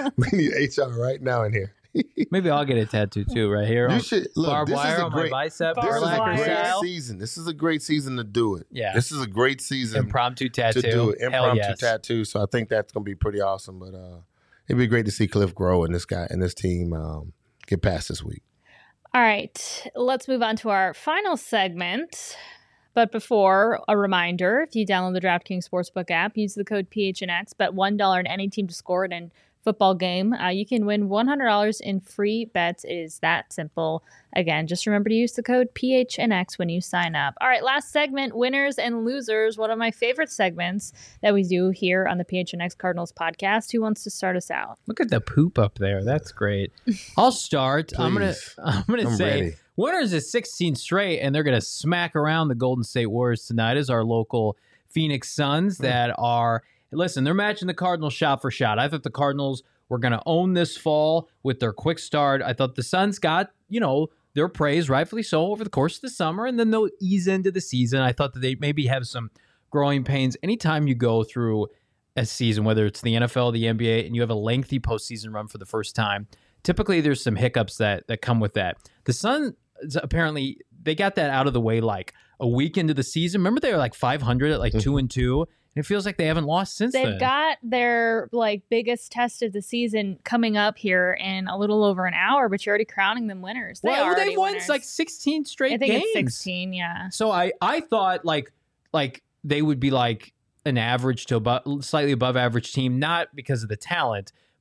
HR right now in here. Maybe I'll get a tattoo too, right here. You should look. Barbed wire on my bicep. This is a great style. season. This is a great season to do it. Yeah. This is a great season. Impromptu tattoo. To do it. Impromptu tattoo. So I think that's going to be pretty awesome. But it'd be great to see Cliff grow and this guy and this team get past this week. All right, let's move on to our final segment. But before, a reminder, if you download the DraftKings Sportsbook app, use the code PHNX, bet $1 on any team to score it in football game. You can win $100 in free bets. It is that simple. Again, just remember to use the code PHNX when you sign up. All right, last segment, winners and losers. One of my favorite segments that we do here on the PHNX Cardinals podcast. Who wants to start us out? Look at the poop up there. That's great. I'll start. Please. I'm gonna say ready. Winners is 16 straight, and they're gonna smack around the Golden State Warriors tonight as our local Phoenix Suns that are. Listen, they're matching the Cardinals shot for shot. I thought the Cardinals were going to own this fall with their quick start. I thought the Suns got, their praise, rightfully so, over the course of the summer, and then they'll ease into the season. I thought that they maybe have some growing pains. Anytime you go through a season, whether it's the NFL, the NBA, and you have a lengthy postseason run for the first time, typically there's some hiccups that come with that. The Suns, apparently, they got that out of the way like a week into the season. Remember they were like 500 at like 2-2? It feels like they haven't lost since then. They've got their biggest test of the season coming up here in a little over an hour, but you're already crowning them winners. They've won winners. like 16 straight games. I think it's 16, yeah. So I thought like they would be like an average to slightly above average team, not because of the talent,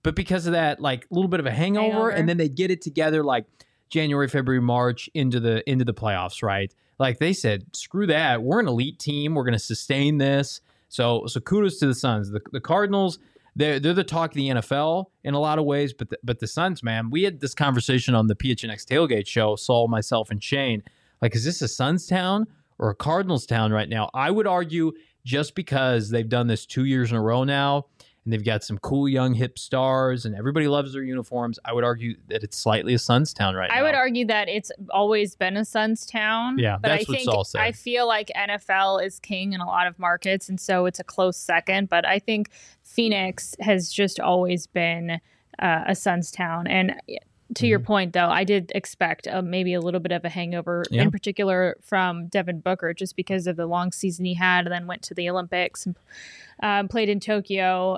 but because of that, like a little bit of a hangover, and then they get it together like January, February, March into the playoffs, right? Like they said, screw that. We're an elite team. We're going to sustain this. So kudos to the Suns. The Cardinals, they're the talk of the NFL in a lot of ways, but the Suns, man, we had this conversation on the PHNX Tailgate show, Saul, myself, and Shane. Like, is this a Suns town or a Cardinals town right now? I would argue just because they've done this 2 years in a row now, and they've got some cool young hip stars, and everybody loves their uniforms. I would argue that it's slightly a Suns town right now. I would argue that it's always been a Suns town. Yeah, but that's what Saul said. I feel like NFL is king in a lot of markets, and so it's a close second. But I think Phoenix has just always been a Suns town. And to your point, though, I did expect maybe a little bit of a hangover, in particular from Devin Booker, just because of the long season he had, and then went to the Olympics and played in Tokyo,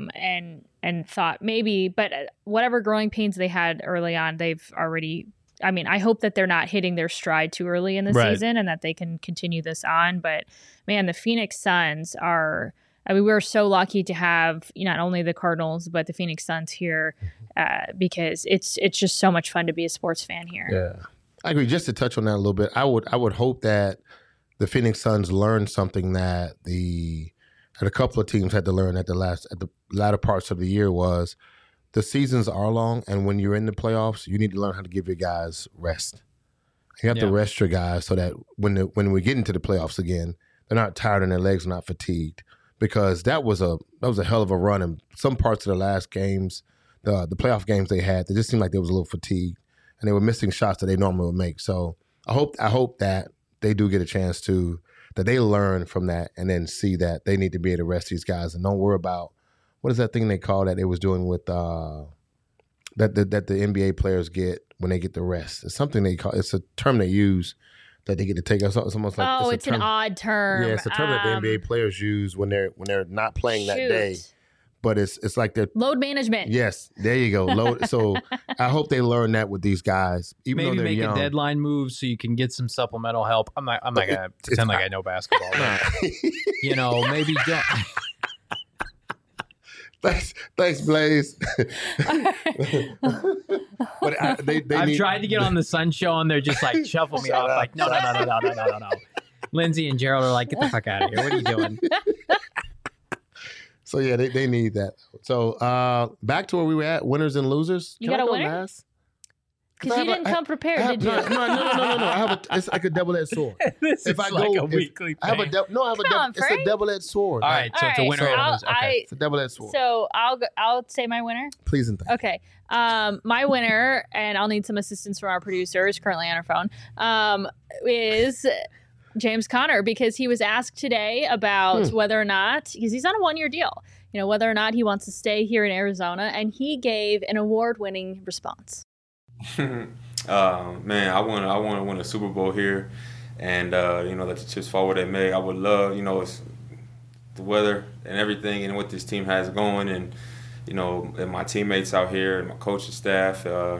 and thought maybe, but whatever growing pains they had early on, they've already. I mean, I hope that they're not hitting their stride too early in the season, and that they can continue this on. But man, the Phoenix Suns are. I mean, we're so lucky to have not only the Cardinals but the Phoenix Suns here, because it's just so much fun to be a sports fan here. Yeah, I agree. Just to touch on that a little bit, I would hope that the Phoenix Suns learn something that a couple of teams had to learn at the latter parts of the year was the seasons are long, and when you're in the playoffs, you need to learn how to give your guys rest. You have to rest your guys so that when we get into the playoffs again, they're not tired and their legs are not fatigued. Because that was a hell of a run, and some parts of the last games, the playoff games they had, they just seemed like they was a little fatigued, and they were missing shots that they normally would make. So I hope that they do get a chance that they learn from that, and then see that they need to be able to rest these guys, and don't worry about what is that thing they call that they was doing with that the NBA players get when they get the rest. It's something they call. It's a term they use. That they get to take us. It's almost like it's an odd term. Yeah, it's a term that the NBA players use when they're not playing that day. But it's like they're load management. Yes, there you go. Load. So I hope they learn that with these guys. Even maybe though they're make young. a deadline move so you can get some supplemental help. I'm not gonna pretend like I know basketball. Maybe don't. Thanks, Blaze. But I've tried to get on the Sun Show, and they're just like shuffle me off. Like no. Lindsay and Gerald are like, get the fuck out of here. What are you doing? So yeah, they need that. So back to where we were at, winners and losers. You got a winner? Because you didn't come prepared, did you? No. It's like a double-edged sword. This is like a weekly thing. It's a double-edged sword. All right, so it's a winner and a loser. Okay. It's a double-edged sword. So I'll say my winner. Please and thank. Okay. My winner, and I'll need some assistance from our producer, who's currently on her phone, is James Conner, because he was asked today about whether or not, because he's on a one-year deal, whether or not he wants to stay here in Arizona, and he gave an award-winning response. Man, I want to win a Super Bowl here, and let the chips fall where they may. I would love, it's the weather and everything, and what this team has going, and and my teammates out here and my coaching staff. I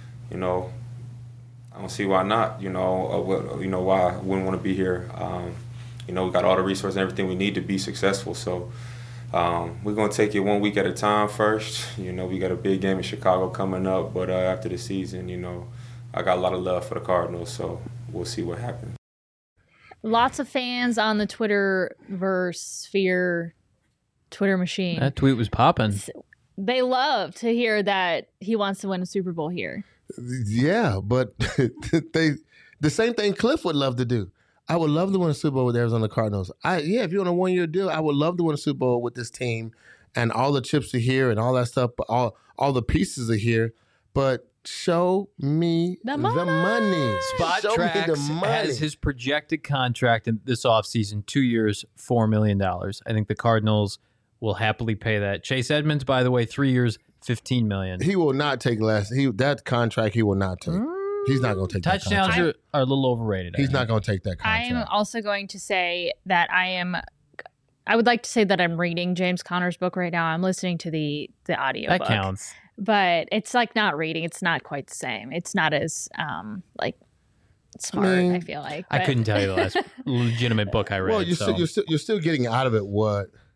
don't see why not. Why I wouldn't want to be here. We got all the resources and everything we need to be successful. So. We're going to take it 1 week at a time first. We got a big game in Chicago coming up, but after the season, I got a lot of love for the Cardinals, so we'll see what happens. Lots of fans on the Twitterverse sphere, Twitter machine. That tweet was popping. They love to hear that he wants to win a Super Bowl here. Yeah, but the same thing Cliff would love to do. I would love to win a Super Bowl with the Arizona Cardinals. If you're on a one-year deal, I would love to win a Super Bowl with this team, and all the chips are here and all that stuff. But all the pieces are here. But show me the money. Spotrac has his projected contract in this offseason, 2 years, $4 million. I think the Cardinals will happily pay that. Chase Edmonds, by the way, 3 years, $15 million. He will not take less. That contract he will not take. He's not going to take touchdowns that contract. are a little overrated. He's not going to take that contract. I'm also going to say that I would like to say that I'm reading James Conner's book right now. I'm listening to the audio that book. Counts. But it's like not reading. It's not quite the same. It's not as smart, I feel like. But. I couldn't tell you the last legitimate book I read. Well, you're still getting out of it what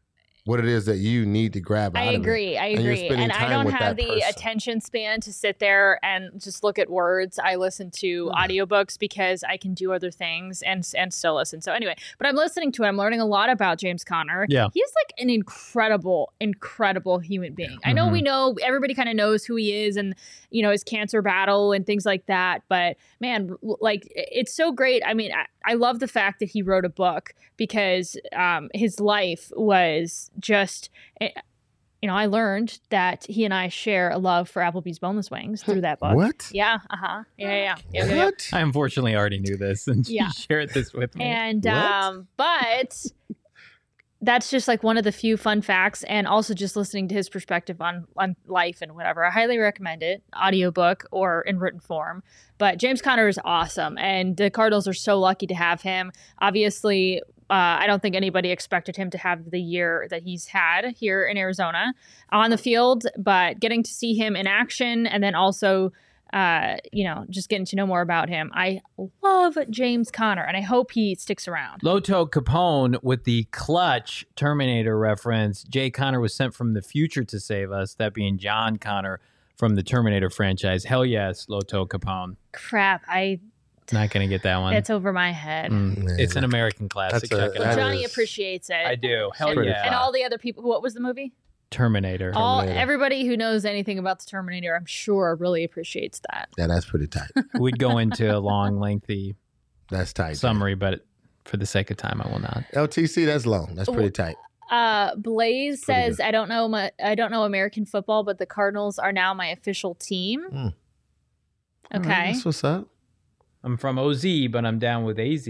what it is that you need to grab out I of it. agree. I And you're agree. spending And I time don't with have that the person. attention span to sit there and just look at words. I listen to audiobooks because I can do other things and still listen. So anyway, but I'm listening to it. I'm learning a lot about James Conner. Yeah. He's like an incredible human being. I know we know everybody kind of knows who he is and, you know, his cancer battle and things like that. But man, like it's so great. I mean, I love the fact that he wrote a book because his life was just, you know, I learned that he and I share a love for Applebee's boneless wings through that book. What? Yeah. Yeah. What? I unfortunately already knew this, and she Yeah. shared this with me. And What? but that's just like one of the few fun facts, and also just listening to his perspective on life and whatever. I highly recommend it, audiobook or in written form. But James Conner is awesome, and the Cardinals are so lucky to have him. Obviously, I don't think anybody expected him to have the year that he's had here in Arizona on the field, but getting to see him in action and then also, you know, just getting to know more about him. I love James Conner, and I hope he sticks around. Loto Capone with the clutch Terminator reference. Jay Connor was sent from the future to save us, that being John Connor from the Terminator franchise. Hell yes, Loto Capone. Crap, Not going to get that one. it's over my head. It's an American classic. That's a- Check it Well, out. that Johnny is- appreciates it. I do. Hell Pretty yeah. And all the other people. What was the movie? Terminator. Everybody who knows anything about the Terminator, I'm sure, really appreciates that. Yeah, that's pretty tight. We'd go into a long, lengthy That's tight. summary, but for the sake of time, I will not. LTC, that's long. That's pretty tight. Blaze Pretty says, good. "I don't know American football, but the Cardinals are now my official team." Mm. Okay, All right, that's what's up. I'm from OZ, but I'm down with AZ.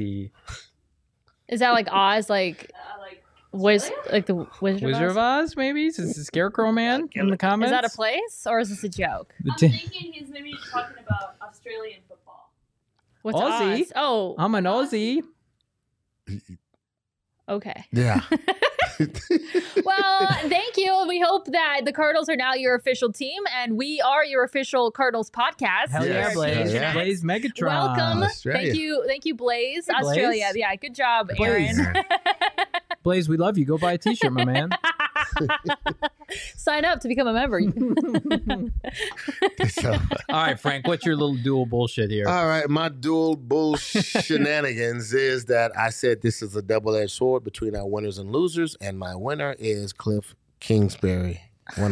is that like Oz, like like the Wizard, Wizard of of Oz? Oz, maybe? Is this the Scarecrow Man in the Is comments? that a place or is this a joke? The I'm t- thinking he's maybe talking about Australian football. What's Aussie. Oz? Oh, I'm an Aussie. okay. Yeah. Well, thank you. We hope that the Cardinals are now your official team, and we are your official Cardinals podcast. Hell here yeah, Yes, at Blaze. yeah. Blaze Megatron. Welcome. Australia. Thank you, Blaze. Hey, Blaze. Australia. Yeah, good job, Blaze. Aaron. Blaze, we love you. Go buy a t-shirt, my man. Sign up to become a member. So, All right, Frank, what's your little dual bullshit here? all right, my dual bull shenanigans is that I said this is a double-edged sword between our winners and losers, and my winner is Cliff Kingsbury.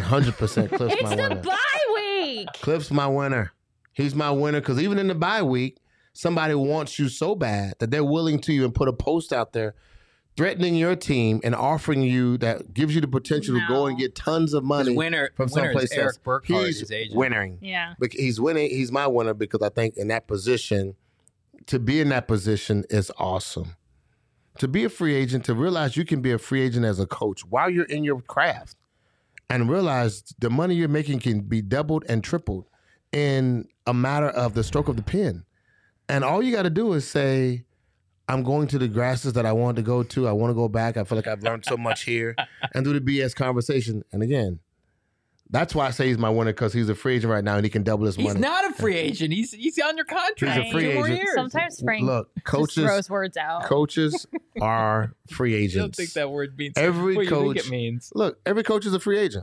100% Cliff's It's my the winner. bye week. Cliff's my winner. He's my winner because even in the bye week, somebody wants you so bad that they're willing to even put a post out there threatening your team and offering you that gives you the potential to go and get tons of money winner from is someplace Eric else. Burkhart, He's his agent. winning. Yeah. But he's winning. He's my winner because I think in that position, to be in that position is awesome. To be a free agent, to realize you can be a free agent as a coach while you're in your craft and realize the money you're making can be doubled and tripled in a matter of the stroke of the pen. And all you got to do is say, I'm going to the grasses that I wanted to go to. I want to go back. I feel like I've learned so much here and do the BS conversation. And again, that's why I say he's my winner because he's a free agent right now and he can double his He's money. not a free agent. He's on your contract. He's a free 2 more agent. years. Sometimes Frank Look, just coaches throws words out. coaches are free I agents. don't think that word means Every what you coach- think it means. Look, every coach is a free agent.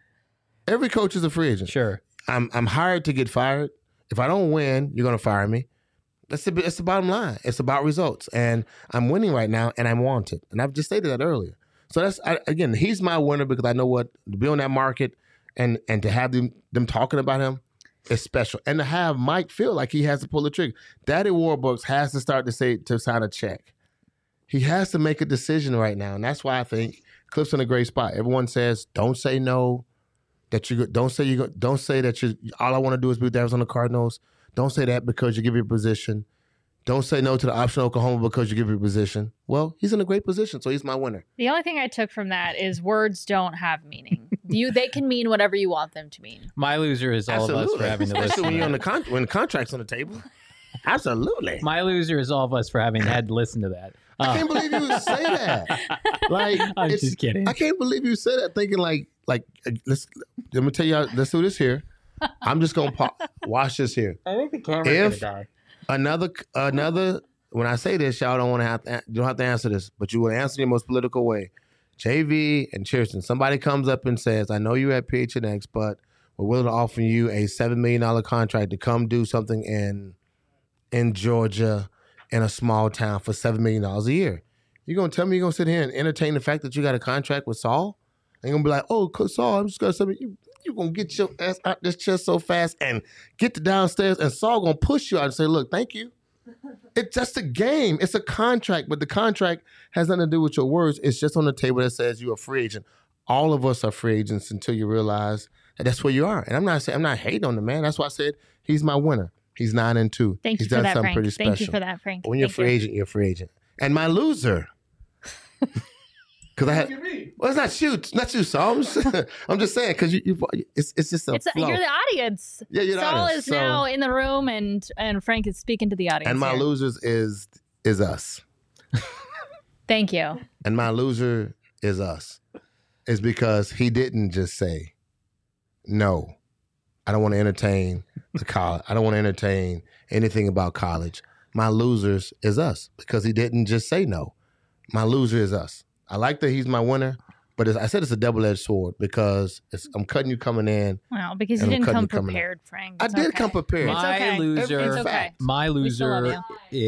Every coach is a free agent. Sure. I'm hired to get fired. If I don't win, you're going to fire me. That's the bottom line. It's about results. And I'm winning right now, and I'm wanted. And I've just stated that earlier. So again, he's my winner because I know what to be on that market and to have them talking about him is special. And to have Mike feel like he has to pull the trigger. Daddy Warbucks has to start to sign a check. He has to make a decision right now. And that's why I think Cliff's in a great spot. Everyone says, don't say no. Don't say that all I want to do is be with the Arizona Cardinals. Don't say that because you give your position. Don't say no to the option of Oklahoma because you give your position. Well, he's in a great position, so he's my winner. The only thing I took from that is words don't have meaning. They can mean whatever you want them to mean. My loser is all of us for having to listen. Especially when to you're on that. when the contract's on the table. Absolutely. My loser is all of us for having had to listen to that. I can't believe you would say that. Like, I'm just kidding. I can't believe you said that thinking let me tell you, let's do this here. I'm just going to watch this here. I think the camera's If- gonna die. Another, when I say this, y'all don't have to answer this, but you will answer in the most political way. JV and Cheerson, somebody comes up and says, I know you're at PHNX, but we're willing to offer you a $7 million contract to come do something in Georgia in a small town for $7 million a year. You're going to tell me you're going to sit here and entertain the fact that you got a contract with Saul? And you're going to be like, oh, Saul, I'm just going to say, you're going to get your ass out this chair so fast and get to downstairs, and Saul going to push you out and say, look, thank you. It's just a game. It's a contract, but the contract has nothing to do with your words. It's just on the table that says you're a free agent. All of us are free agents until you realize that that's where you are. And I'm not hating on the man. That's why I said he's my winner. He's 9-2. Thank you He's for done that, something Frank. pretty special. Thank you for that, Frank. But when you're a free agent, you're a free agent. And my loser. Because I had, well, it's not you, Saul. I'm just saying because it's just a flow. You're the audience. Yeah, you're the Saul audience. is now in the room, and Frank is speaking to the audience. And my here. losers is us. Thank you. And my loser is us. Is because he didn't just say, no, I don't want to entertain the college. I don't want to entertain anything about college. My losers is us because he didn't just say no. My loser is us. I like that he's my winner, but I said it's a double-edged sword because I'm cutting you coming in. Well, because you And I'm didn't cutting come you coming prepared, Frank. I It's did okay. come prepared. It's okay. My loser, It's okay. my We still love loser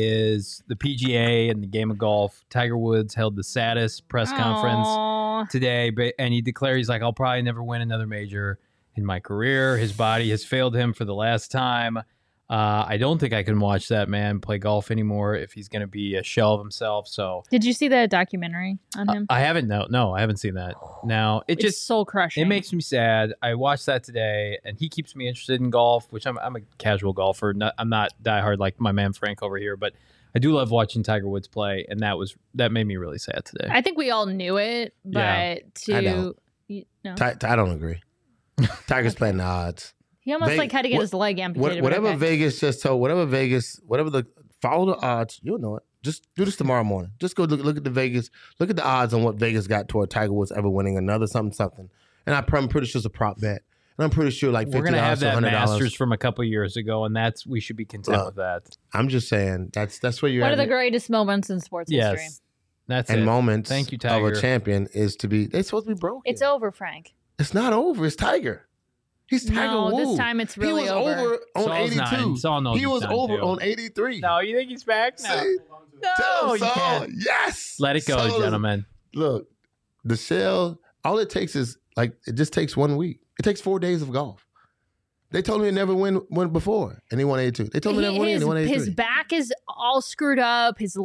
is the PGA and the game of golf. Tiger Woods held the saddest press conference Aw. today, and he declared he's like, I'll probably never win another major in my career. His body has failed him for the last time. I don't think I can watch that man play golf anymore if he's going to be a shell of himself. So Did you see the documentary on him? I haven't. No, I haven't seen that. Now it It's just soul crushing. it makes me sad. I watched that today, and he keeps me interested in golf, which I'm a casual golfer. I'm not diehard like my man Frank over here, but I do love watching Tiger Woods play, and that made me really sad today. I think we all knew it, but Yeah. I don't. no. I don't agree. Tiger's playing the odds. He almost They- like had to get what- his leg amputated. Whatever but okay. Vegas just told, whatever the follow the odds, you'll know it. Just do this tomorrow morning. Just go look at the Vegas, look at the odds on what Vegas got toward Tiger Woods ever winning another something. And I'm pretty sure it's a prop bet. And I'm pretty sure like $50 We're gonna have to that $100. Masters from a couple years ago, and we should be content Look, with that. I'm just saying that's where you're One at. of the greatest moments in sports history. Yes, that's and it. moments Thank you, of Tiger. a champion is to be. They're supposed to be broken. It's over, Frank. It's not over. It's Tiger. He's Tiger No, Woods. this time it's really he was over. on Saul's 82. nine. Saul knows he he's was done, over too. on 83. No, you think he's back? No, See? Tell him, you Saul. can't. Yes. Let it go, Saul is- gentlemen. Look, the shell, all it takes is it just takes 1 week. It takes 4 days of golf. They told me he never win before, and he won 82. They told me he never win, and he won 83. His back is all screwed up. His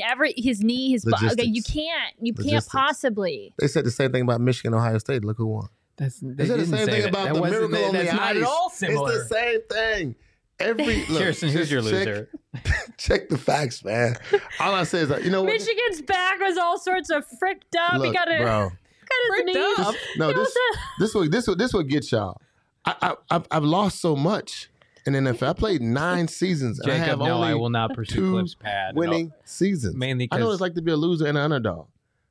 knee, his okay, Logistics. you can't Logistics. possibly. They said the same thing about Michigan, Ohio State. Look who won. They They said the same thing about the miracle on the That's ice. not at all similar. It's the same thing. Kirsten, who's your loser? Check the facts, man. All I say is, you know what? Michigan's back was all sorts of fricked up. Look, he got bro. his knees. up. No, this what gets y'all. I've lost so much in NFL. I played 9 seasons. And I Jacob, have no, only I will not pursue 2 Cliff's pad. winning seasons. Mainly I know what 'cause- it's like to be a loser and an underdog.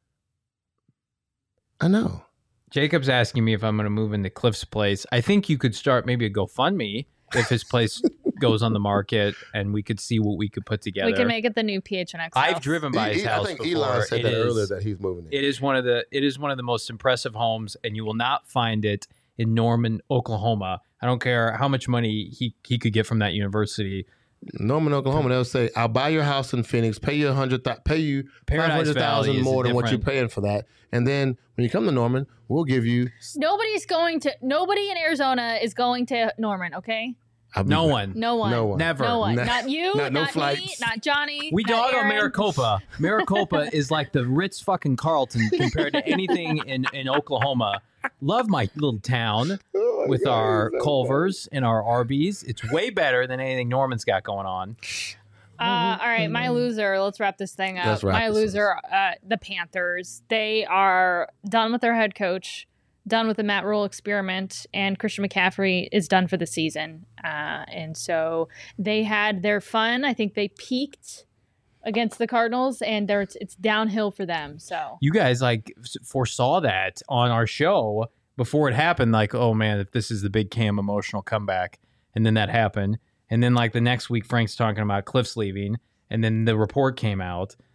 I know. Jacob's asking me if I'm going to move into Cliff's place. I think you could start maybe a GoFundMe if his place goes on the market, and we could see what we could put together. We can make it the new PHNX. I've house. driven by his I house think before. Elon said It that is- earlier that he's moving in. It is one of the most impressive homes, and you will not find it in Norman, Oklahoma. I don't care how much money he could get from that university. Norman, Oklahoma, they'll say, "I'll buy your house in Phoenix, pay you Paradise Valley $500,000 is more than what you're different. paying for that, and then when you come to Norman, we'll give you." Nobody in Arizona is going to Norman, okay? I'll be No back. one. No one. No one. Never. No one. Nah. Not you, Not- no not me, flights. not Johnny. We not dog on Aaron. Maricopa. Maricopa is like the Ritz fucking Carlton compared to anything in Oklahoma. Love my little town Oh my with God, our he's so Culvers and our Arby's. It's way better than anything Norman's got going on. All right, my loser. Let's wrap this thing up. Let's wrap My this loser, the Panthers. They are done with their head coach, done with the Matt Rule experiment, and Christian McCaffrey is done for the season. And so they had their fun. I think they peaked against the Cardinals, and it's downhill for them. So You guys foresaw that on our show before it happened. Like, oh man, if this is the big Cam emotional comeback, and then that happened, and then the next week Frank's talking about Cliff's leaving, and then the report came out.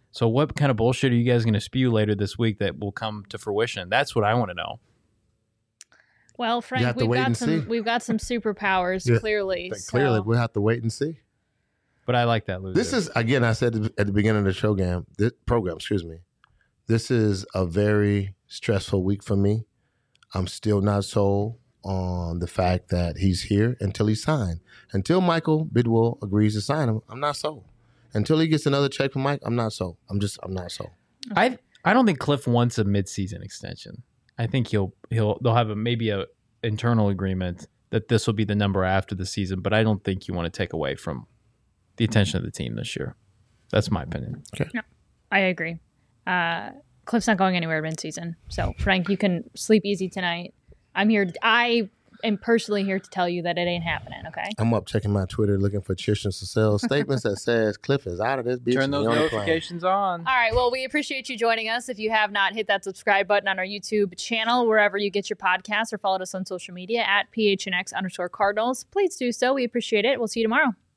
So what kind of bullshit are you guys going to spew later this week that will come to fruition? That's what I want to know. Well, Frank, have to wait and see. we've got some superpowers, Yeah, clearly. Clearly, so- we'll have to wait and see. But I like that, Lou. This is, again, I said at the beginning of the program, excuse me. This is a very stressful week for me. I'm still not sold on the fact that he's here until he's signed. Until Michael Bidwell agrees to sign him, I'm not sold. Until he gets another check from Mike, I'm not sold. I'm not sold. I don't think Cliff wants a midseason extension. I think they'll have maybe a internal agreement that this will be the number after the season, but I don't think you want to take away from the attention of the team this year. That's my opinion. Okay. No, I agree. Cliff's not going anywhere mid-season. So, Frank, you can sleep easy tonight. I am personally here to tell you that it ain't happening, okay? I'm up checking my Twitter looking for Tristan Cecile statements that says Cliff is out of this bitch. Turn and those he on the plane. notifications on. All right. Well, we appreciate you joining us. If you have not, hit that subscribe button on our YouTube channel, wherever you get your podcasts, or followed us on social media at PHNX_Cardinals. Please do so. We appreciate it. We'll see you tomorrow.